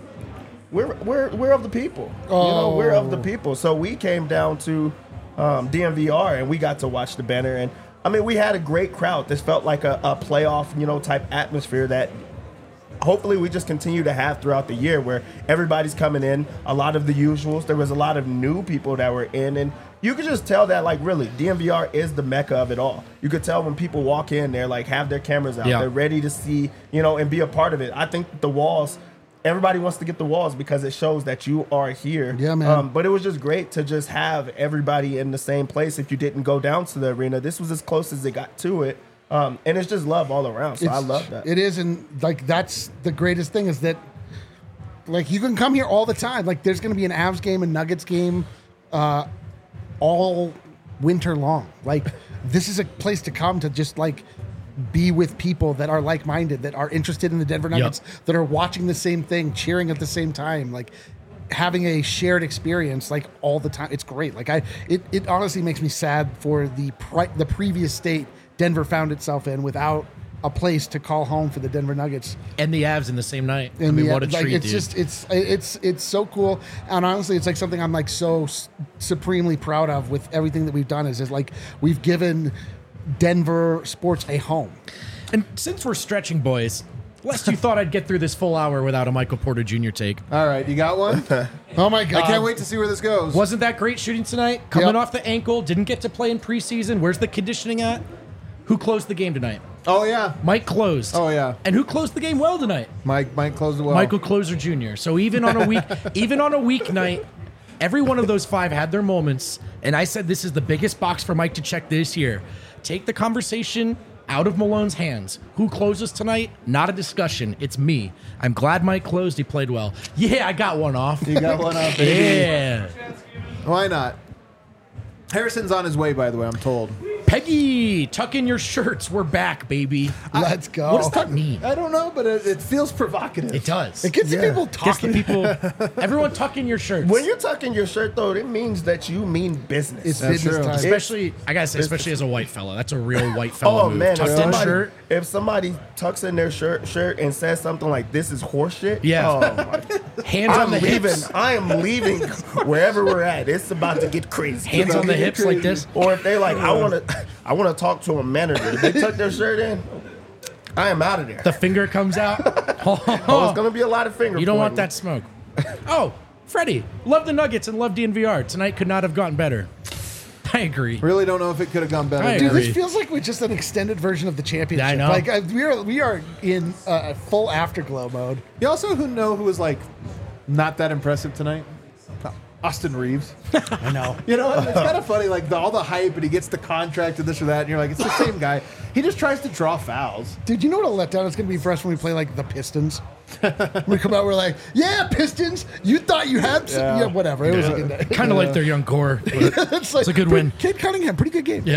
we're of the people. You know, we're of the people. So we came down to DMVR and we got to watch the banner. And I mean, we had a great crowd. This felt like a playoff, type atmosphere that hopefully we just continue to have throughout the year, where everybody's coming in, a lot of the usuals. There was a lot of new people that were in, and you could just tell that, like, really, DMVR is the mecca of it all. You could tell when people walk in, they're like, have their cameras out, Yeah. they're ready to see, and be a part of it. I think the walls, everybody wants to get the walls because it shows that you are here. Yeah, man. But it was just great to just have everybody in the same place. If you didn't go down to the arena, this was as close as it got to it. And it's just love all around. So I love that. It is, and like that's the greatest thing is that like you can come here all the time. Like there's going to be an Avs game, a Nuggets game, all winter long. Like this is a place to come to just like be with people that are like-minded, that are interested in the Denver Nuggets, that are watching the same thing, cheering at the same time, like having a shared experience like all the time. It's great. Like it honestly makes me sad for the previous state Denver found itself in without a place to call home for the Denver Nuggets and the Avs in the same night. And I mean, what a treat, it's dude. just it's so cool, and honestly, it's like something I'm like so supremely proud of with everything that we've done. Is like we've given Denver sports a home. And since we're stretching, boys, lest you thought I'd get through this full hour without a Michael Porter Jr. take. All right, you got one? Oh my God. I can't wait to see where this goes. Wasn't that great shooting tonight? Coming off the ankle, didn't get to play in preseason. Where's the conditioning at? Who closed the game tonight? Oh, yeah. Mike closed. Oh, yeah. And who closed the game well tonight? Mike closed it well. Michael Closer Jr. So even on a weeknight, every one of those 5 had their moments. And I said this is the biggest box for Mike to check this year. Take the conversation out of Malone's hands. Who closes tonight? Not a discussion. It's me. I'm glad Mike closed. He played well. Yeah, I got one off. You got one off, baby. Yeah. Why not? Harrison's on his way, by the way, I'm told. Peggy, tuck in your shirts. We're back, baby. Let's go. What does that mean? I don't know, but it feels provocative. It does. It gets the people Gets the talking. people. Everyone tuck in your shirts. When you're tucking your shirt, though, it means that you mean business. It's That's business true. time. especially, I gotta say, especially as a white fella. That's a real white fella Oh move. man! Tucked in shirt. If somebody tucks in their shirt and says something like "This is horseshit," Yeah. oh my, Hands on I'm the leaving. hips. I am leaving wherever we're at. It's about to get crazy. Hands on the hips like this. Or if they like, I want to talk to a manager. They tuck their shirt in. I am out of there. The finger comes out. Oh, it's gonna be a lot of finger. You don't want pointing. that smoke. Oh, Freddie, love the Nuggets and love DNVR. Tonight could not have gotten better. I agree. Really don't know if it could have gone better. I Dude, agree. this feels like we're just an extended version of the championship. I know. Like we are in full afterglow mode. You also who was like not that impressive tonight? Austin Reeves. I know. You know, it's kind of funny, like all the hype, and he gets the contract and this or that, and you're like, it's the same guy. He just tries to draw fouls. Dude, you know what a letdown it's going to be for us when we play like the Pistons? We come out, we're like, yeah, Pistons, you thought you had some, yeah, whatever. It was a good day. Kind of like their young core. But It's a good win. Kate Cunningham, pretty good game. yeah.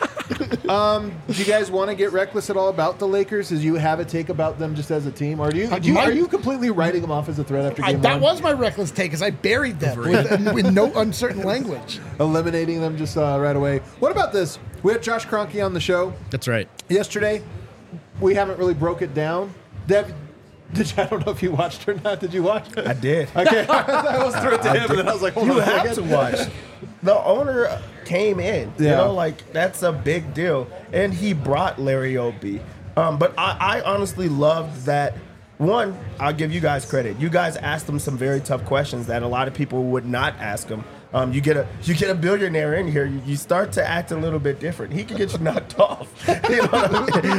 Do you guys want to get reckless at all about the Lakers? As you have a take about them just as a team, or are you completely writing them off as a threat after game That one? was my reckless take, because I buried them with no uncertain language. Eliminating them just right away. What about this? We had Josh Kroenke on the show That's right. yesterday. We haven't really broke it down. Dev, I don't know if you watched or not. Did you watch? I did. Okay, I was through it to him, and then I was like, hold You on a have second. to watch. The owner came in. You Yeah. know, like that's a big deal, and he brought Larry O'B. But I honestly loved that. One, I'll give you guys credit. You guys asked him some very tough questions that a lot of people would not ask him. You get a billionaire in here, you start to act a little bit different. He could get you knocked off. You know what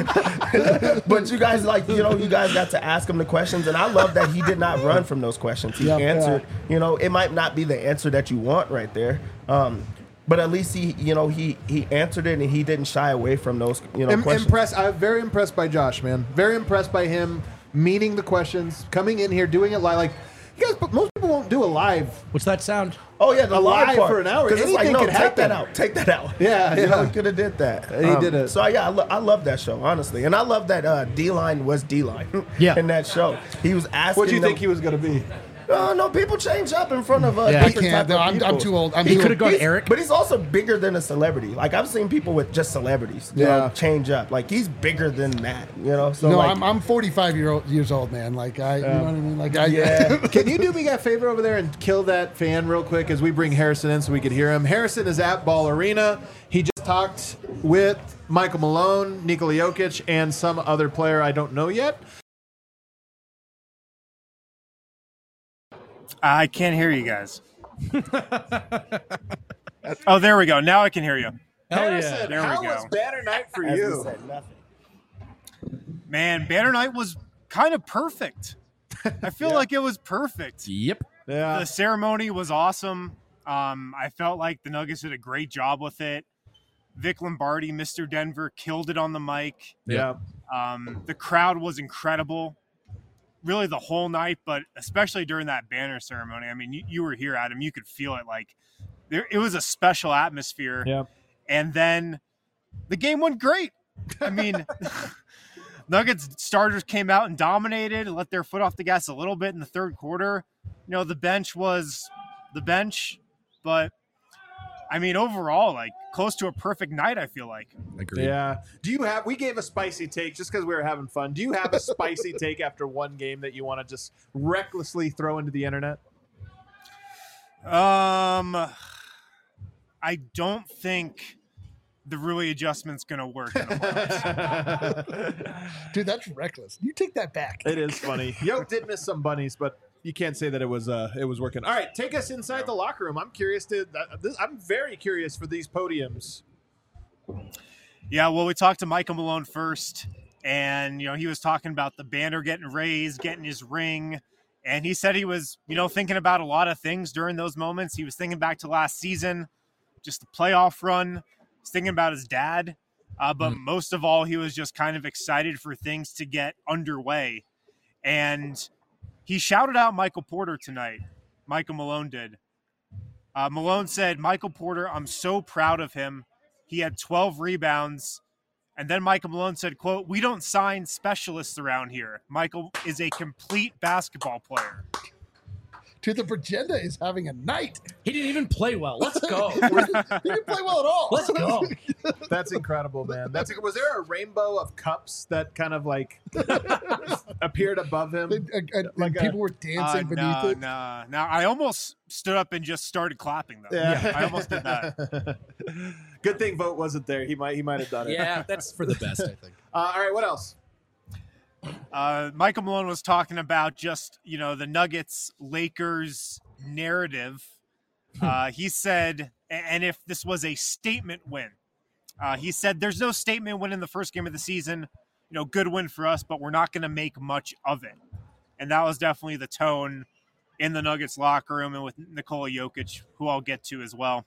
I mean? But you guys you guys got to ask him the questions, and I love that he did not run from those questions. He answered. You know, it might not be the answer that you want right there. But at least he answered it, and he didn't shy away from those questions. I'm very impressed by Josh, man. Very impressed by him meaning the questions, coming in here, doing it live. Like, you guys, but most people won't do a live. What's that sound? Oh yeah, the Alive live part for an hour. 'Cause it's like, Anything no, could take happen. that out. Take that out. Yeah, You know, yeah. he could have did that. He did it. So yeah, I love that show, honestly, and I love that D-Line was D-Line. Yeah. In that show, he was asking. What do you them, think he was going to be? No, people change up in front of Yeah. I different can't. type of I'm people. too old. He could have gone He's- Eric. But he's also bigger than a celebrity. Like I've seen people with just celebrities, you know, change up. Like he's bigger than that, you know. So No, like, I'm 45 years old, man. Like you know what I mean? Like yeah. Can you do me a favor over there and kill that fan real quick as we bring Harrison in so we could hear him? Harrison is at Ball Arena. He just talked with Michael Malone, Nikola Jokic, and some other player I don't know yet. I can't hear you guys. Oh, there we go. Now I can hear you. Hell yeah. There we how go. was Banner Night for as you? he said, nothing. Man, Banner Night was kind of perfect. I feel like it was perfect. Yep. Yeah. The ceremony was awesome. I felt like the Nuggets did a great job with it. Vic Lombardi, Mr. Denver, killed it on the mic. Yeah. The crowd was incredible. Really the whole night, but especially during that banner ceremony. I mean, you were here, Adam. You could feel it. Like it was a special atmosphere. Yeah. And then the game went great. I mean, Nuggets starters came out and dominated, let their foot off the gas a little bit in the third quarter. You know, the bench was the bench, but I mean, overall, like close to a perfect night, I feel like. Agreed. Yeah. We gave a spicy take just because we were having fun. Do you have a spicy take after one game that you want to just recklessly throw into the internet? I don't think the Rui adjustment's going to work in a month. Dude, that's reckless. You take that back. It is funny. Yoke did miss some bunnies, but you can't say that it was working. All right, take us inside the locker room. I'm very curious for these podiums. Yeah, well, we talked to Michael Malone first, and he was talking about the banner getting raised, getting his ring, and he said he was thinking about a lot of things during those moments. He was thinking back to last season, just the playoff run. He's thinking about his dad, but most of all, he was just kind of excited for things to get underway, and he shouted out Michael Porter tonight. Michael Malone did. Malone said, "Michael Porter, I'm so proud of him. He had 12 rebounds." And then Michael Malone said, quote, "We don't sign specialists around here. Michael is a complete basketball player." Dude, the Bragenda is having a night. He didn't even play well. Let's go. He didn't play well at all. Let's go. That's incredible, man. Was there a rainbow of cups that kind of like appeared above him? And people were dancing beneath it. No. I almost stood up and just started clapping, though. Yeah, I almost did that. Good thing Vogt wasn't there. He might have done it. Yeah, that's for the best, I think. All right, what else? Michael Malone was talking about just, the Nuggets-Lakers narrative. He said, and if this was a statement win, he said, "There's no statement win in the first game of the season. Good win for us, but we're not going to make much of it." And that was definitely the tone in the Nuggets locker room and with Nikola Jokic, who I'll get to as well.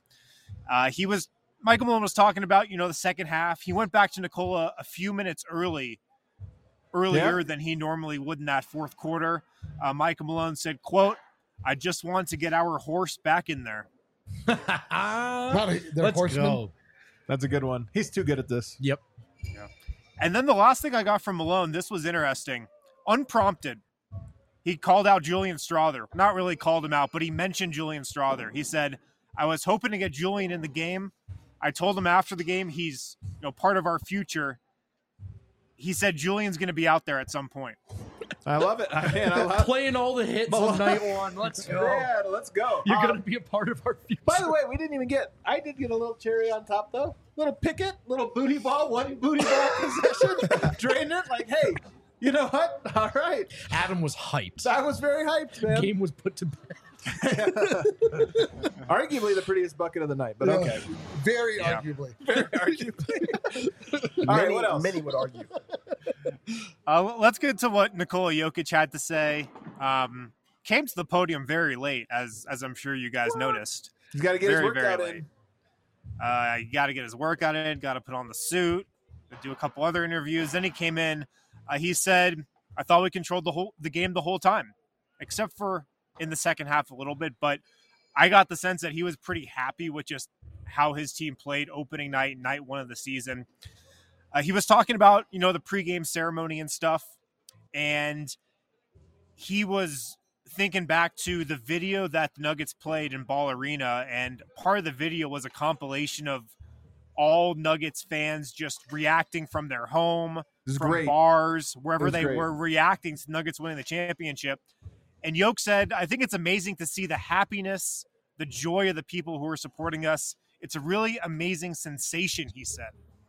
Michael Malone was talking about, the second half. He went back to Nikola a few minutes earlier than he normally would in that fourth quarter. Michael Malone said, quote, "I just want to get our horse back in there." Let's go. That's a good one. He's too good at this. Yep. Yeah. And then the last thing I got from Malone, this was interesting. Unprompted, he called out Julian Strawther. Not really called him out, but he mentioned Julian Strawther. He said, "I was hoping to get Julian in the game. I told him after the game he's part of our future." He said Julian's going to be out there at some point. I love it. I love playing all the hits on night one. Let's go. Yeah, let's go. You're going to be a part of our future. By the way, I did get a little cherry on top, though. Little picket, little booty ball, one booty ball possession. Drained it like, hey, you know what? All right. Adam was hyped. I was very hyped, man. Game was put to bed. Arguably the prettiest bucket of the night, but okay. Very arguably. Very arguably. All right, what else? Many would argue. Let's get to what Nikola Jokic had to say. Came to the podium very late, as I'm sure you guys noticed. He's got to get his workout in. You got to get his workout in, got to put on the suit, do a couple other interviews. Then he came in. He said, "I thought we controlled the game the whole time, except for in the second half a little bit." But I got the sense that he was pretty happy with just how his team played opening night one of the season. He was talking about, the pregame ceremony and stuff. And he was thinking back to the video that the Nuggets played in Ball Arena. And part of the video was a compilation of all Nuggets fans just reacting from their home, from bars, wherever they were reacting to Nuggets winning the championship. And Yoke said, "I think it's amazing to see the happiness, the joy of the people who are supporting us. It's a really amazing sensation," he said.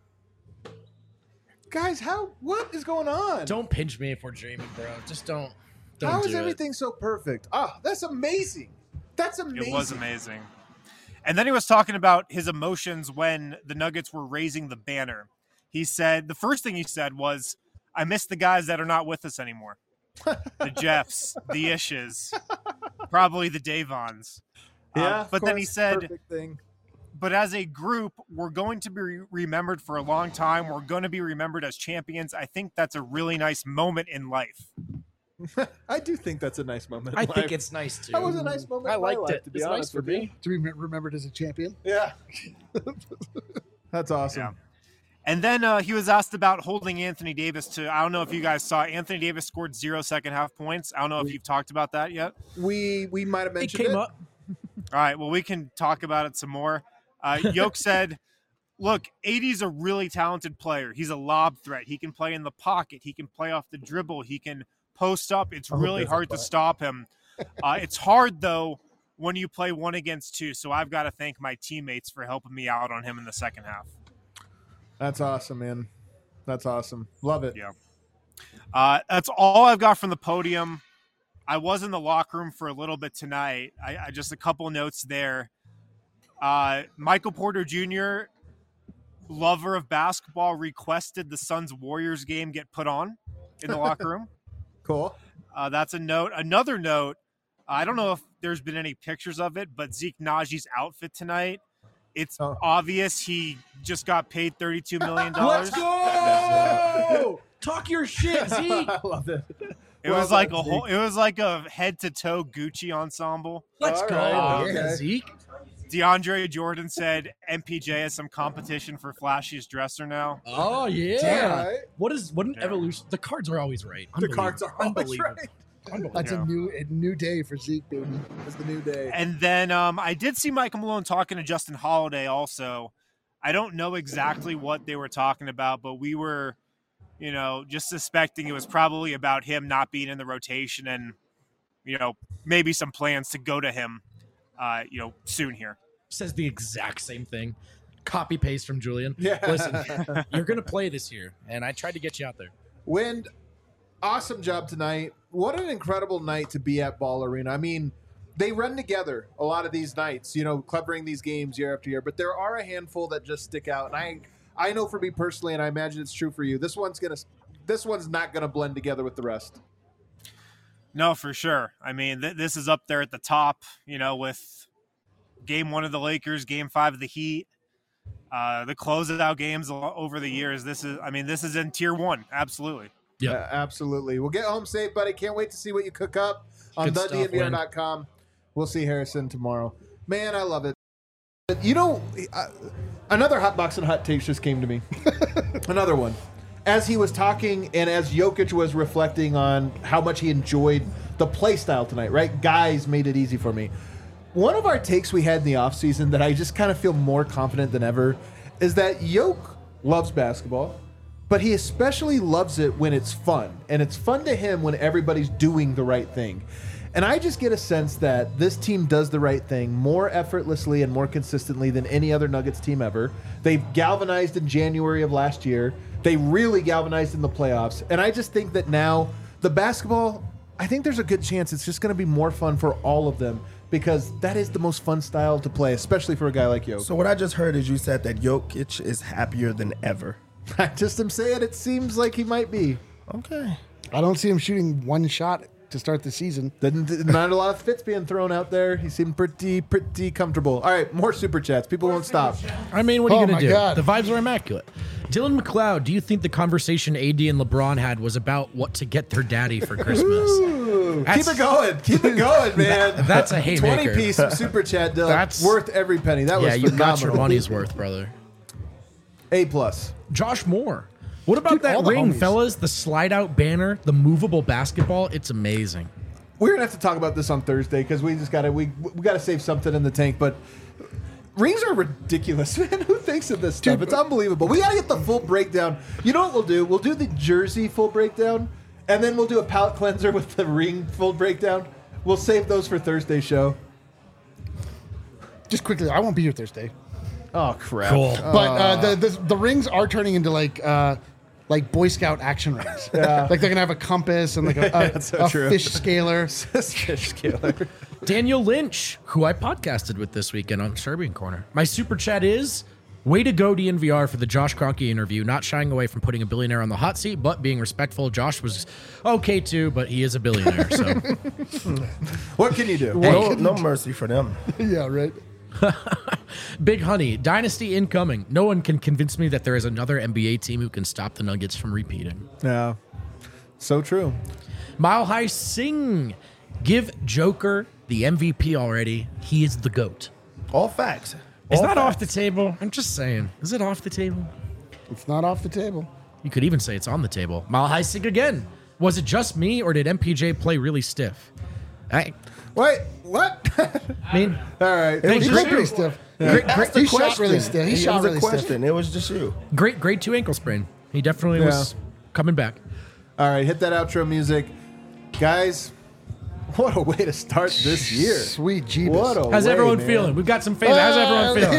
Guys, what is going on? Don't pinch me if we're dreaming, bro. Just don't How do is everything so perfect? That's amazing. That's amazing. It was amazing. And then he was talking about his emotions when the Nuggets were raising the banner. He said, the first thing he said was, "I miss the guys that are not with us anymore." The Jeffs, the Ishes, probably the Davons. Yeah, but then he said, perfect thing. "But as a group, we're going to be remembered for a long time. We're going to be remembered as champions. I think that's a really nice moment in life." I do think that's a nice moment. I think it's nice too. That was a nice moment. I in my liked life, it. to be It's honest nice for with you. me. To be remembered as a champion. Yeah. That's awesome. Yeah. And then he was asked about holding Anthony Davis to, I don't know if you guys saw, Anthony Davis scored 0 second half points. I don't know if you've talked about that yet. We might have mentioned it. came up. All right, well, we can talk about it some more. Yoke said, look, AD's a really talented player. He's a lob threat. He can play in the pocket. He can play off the dribble. He can post up. It's really hard to stop him. It's hard, though, when you play 1 against 2. So I've got to thank my teammates for helping me out on him in the second half. That's awesome, man. That's awesome. Love it. Yeah. That's all I've got from the podium. I was in the locker room for a little bit tonight. I just a couple notes there. Michael Porter Jr., lover of basketball, requested the Suns-Warriors game get put on in the locker room. Cool. That's a note. Another note, I don't know if there's been any pictures of it, but Zeke Naji's outfit tonight, it's obvious he just got paid $32 million. Let's go! Talk your shit, Zeke. I love it. It was like a head to toe Gucci ensemble. Let's go. Right, Yeah, Zeke. DeAndre Jordan said MPJ has some competition for flashiest dresser now. Oh yeah. Damn. What an evolution. The cards are always right. The cards are always unbelievable. right. That's a new day for Zeke, baby. It's the new day. And then I did see Michael Malone talking to Justin Holiday also. I don't know exactly what they were talking about, but we were, just suspecting it was probably about him not being in the rotation and, maybe some plans to go to him, soon here. Says the exact same thing. Copy paste from Julian. Yeah. Listen, you're going to play this year, and I tried to get you out there. Wind, awesome job tonight. What an incredible night to be at Ball Arena. I mean, they run together a lot of these nights, covering these games year after year, but there are a handful that just stick out. And I know for me personally, and I imagine it's true for you, this one's not gonna blend together with the rest. No, for sure. I mean, this is up there at the top, with Game 1 of the Lakers, Game 5 of the Heat, the closeout games over the years. This is in Tier 1, absolutely. Yeah, absolutely. We'll get home safe, buddy. Can't wait to see what you cook up on thednvr.com. We'll see Harrison tomorrow. Man, I love it. Another Hot Box and Hot Takes just came to me. Another one. As he was talking and as Jokic was reflecting on how much he enjoyed the play style tonight, right? Guys made it easy for me. One of our takes we had in the offseason that I just kind of feel more confident than ever is that Jokic loves basketball, but he especially loves it when it's fun. And it's fun to him when everybody's doing the right thing. And I just get a sense that this team does the right thing more effortlessly and more consistently than any other Nuggets team ever. They've galvanized in January of last year. They really galvanized in the playoffs. And I just think that now the basketball, I think there's a good chance it's just going to be more fun for all of them because that is the most fun style to play, especially for a guy like Jokic. So what I just heard is you said that Jokic is happier than ever. I just am saying it seems like he might be. Okay. I don't see him shooting one shot to start the season. Not a lot of fits being thrown out there. He seemed pretty comfortable. All right, more super chats. People won't stop. I mean, what are you going to do? God. The vibes are immaculate. Dylan McLeod, do you think the conversation AD and LeBron had was about what to get their daddy for Christmas? Keep it going. Keep it going, man. That's a haymaker. 20 piece of super chat, Dylan. That's worth every penny. That was you phenomenal. got your money's worth, brother. A+. Josh Moore. What about that all the ring, homies. fellas? The slide-out banner, the movable basketball. It's amazing. We're gonna have to talk about this on Thursday because we gotta save something in the tank. But rings are ridiculous, man. Who thinks of this stuff? It's unbelievable. We gotta get the full breakdown. You know what we'll do? We'll do the jersey full breakdown, and then we'll do a palate cleanser with the ring full breakdown. We'll save those for Thursday's show. Just quickly, I won't be here Thursday. Oh crap! Cool. But the rings are turning into like Boy Scout action rings. Yeah. Like they're gonna have a compass and like a true. fish scaler. Fish scaler. Daniel Lynch, who I podcasted with this weekend on Serbian Corner. My super chat is, way to go DNVR for the Josh Kroenke interview, not shying away from putting a billionaire on the hot seat, but being respectful. Josh was okay too, but he is a billionaire. So What can you do? No mercy for them. Yeah, right. Big Honey, Dynasty incoming. No one can convince me that there is another NBA team who can stop the Nuggets from repeating. Yeah, so true. Mile High Sing, give Joker the MVP already. He is the GOAT. All facts. Is All that facts. off the table? I'm just saying. Is it off the table? It's not off the table. You could even say it's on the table. Mile High Sig again. Was it just me, or did MPJ play really stiff? Wait, what? I mean, all right. He looked pretty stiff. He shot really stiff. He shot really stiff. It was just you. Grade 2 ankle sprain. He definitely was coming back. All right, hit that outro music. Guys, what a way to start this year. Sweet Jeebus. What a How's way, everyone man. feeling? We've got some fans. How's everyone feeling?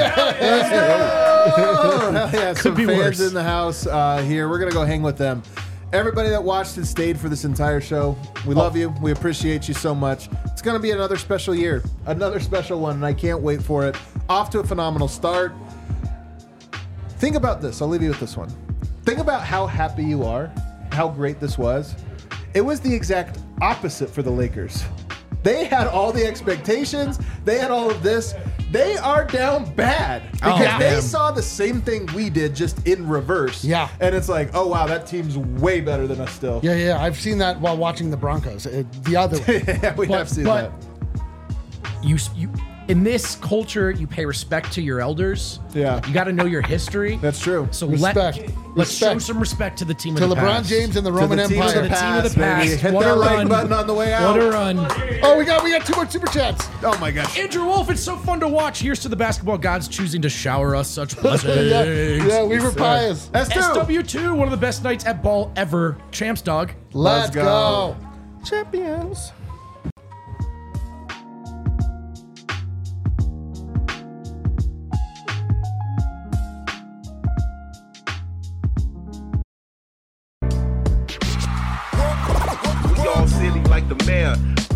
Oh, hell yeah, some be fans worse. in the house here. We're going to go hang with them. Everybody that watched and stayed for this entire show, we love you. We appreciate you so much. It's going to be another special year, another special one, and I can't wait for it. Off to a phenomenal start. Think about this. I'll leave you with this one. Think about how happy you are, how great this was. It was the exact opposite for the Lakers. They had all the expectations. They had all of this. They are down bad because they saw the same thing we did, just in reverse. Yeah. And it's like, oh, wow, that team's way better than us still. Yeah. I've seen that while watching the Broncos. The other way. Yeah, we have seen that. You in this culture, you pay respect to your elders. Yeah. You got to know your history. That's true. So Respect. let's show Respect. some respect to the team To of the LeBron past. James and the To Roman the team of Empire. the The team of the past, baby. past. Hit What that a like run. button on the way out. What a run. Oh, we got 2 more super chats. Oh, my gosh. Andrew Wolf, it's so fun to watch. Here's to the basketball gods choosing to shower us such blessings. Yeah, we were pious. S2. SW2, one of the best nights at ball ever. Champs dog. Let's go. Champions. We all silly like the mayor.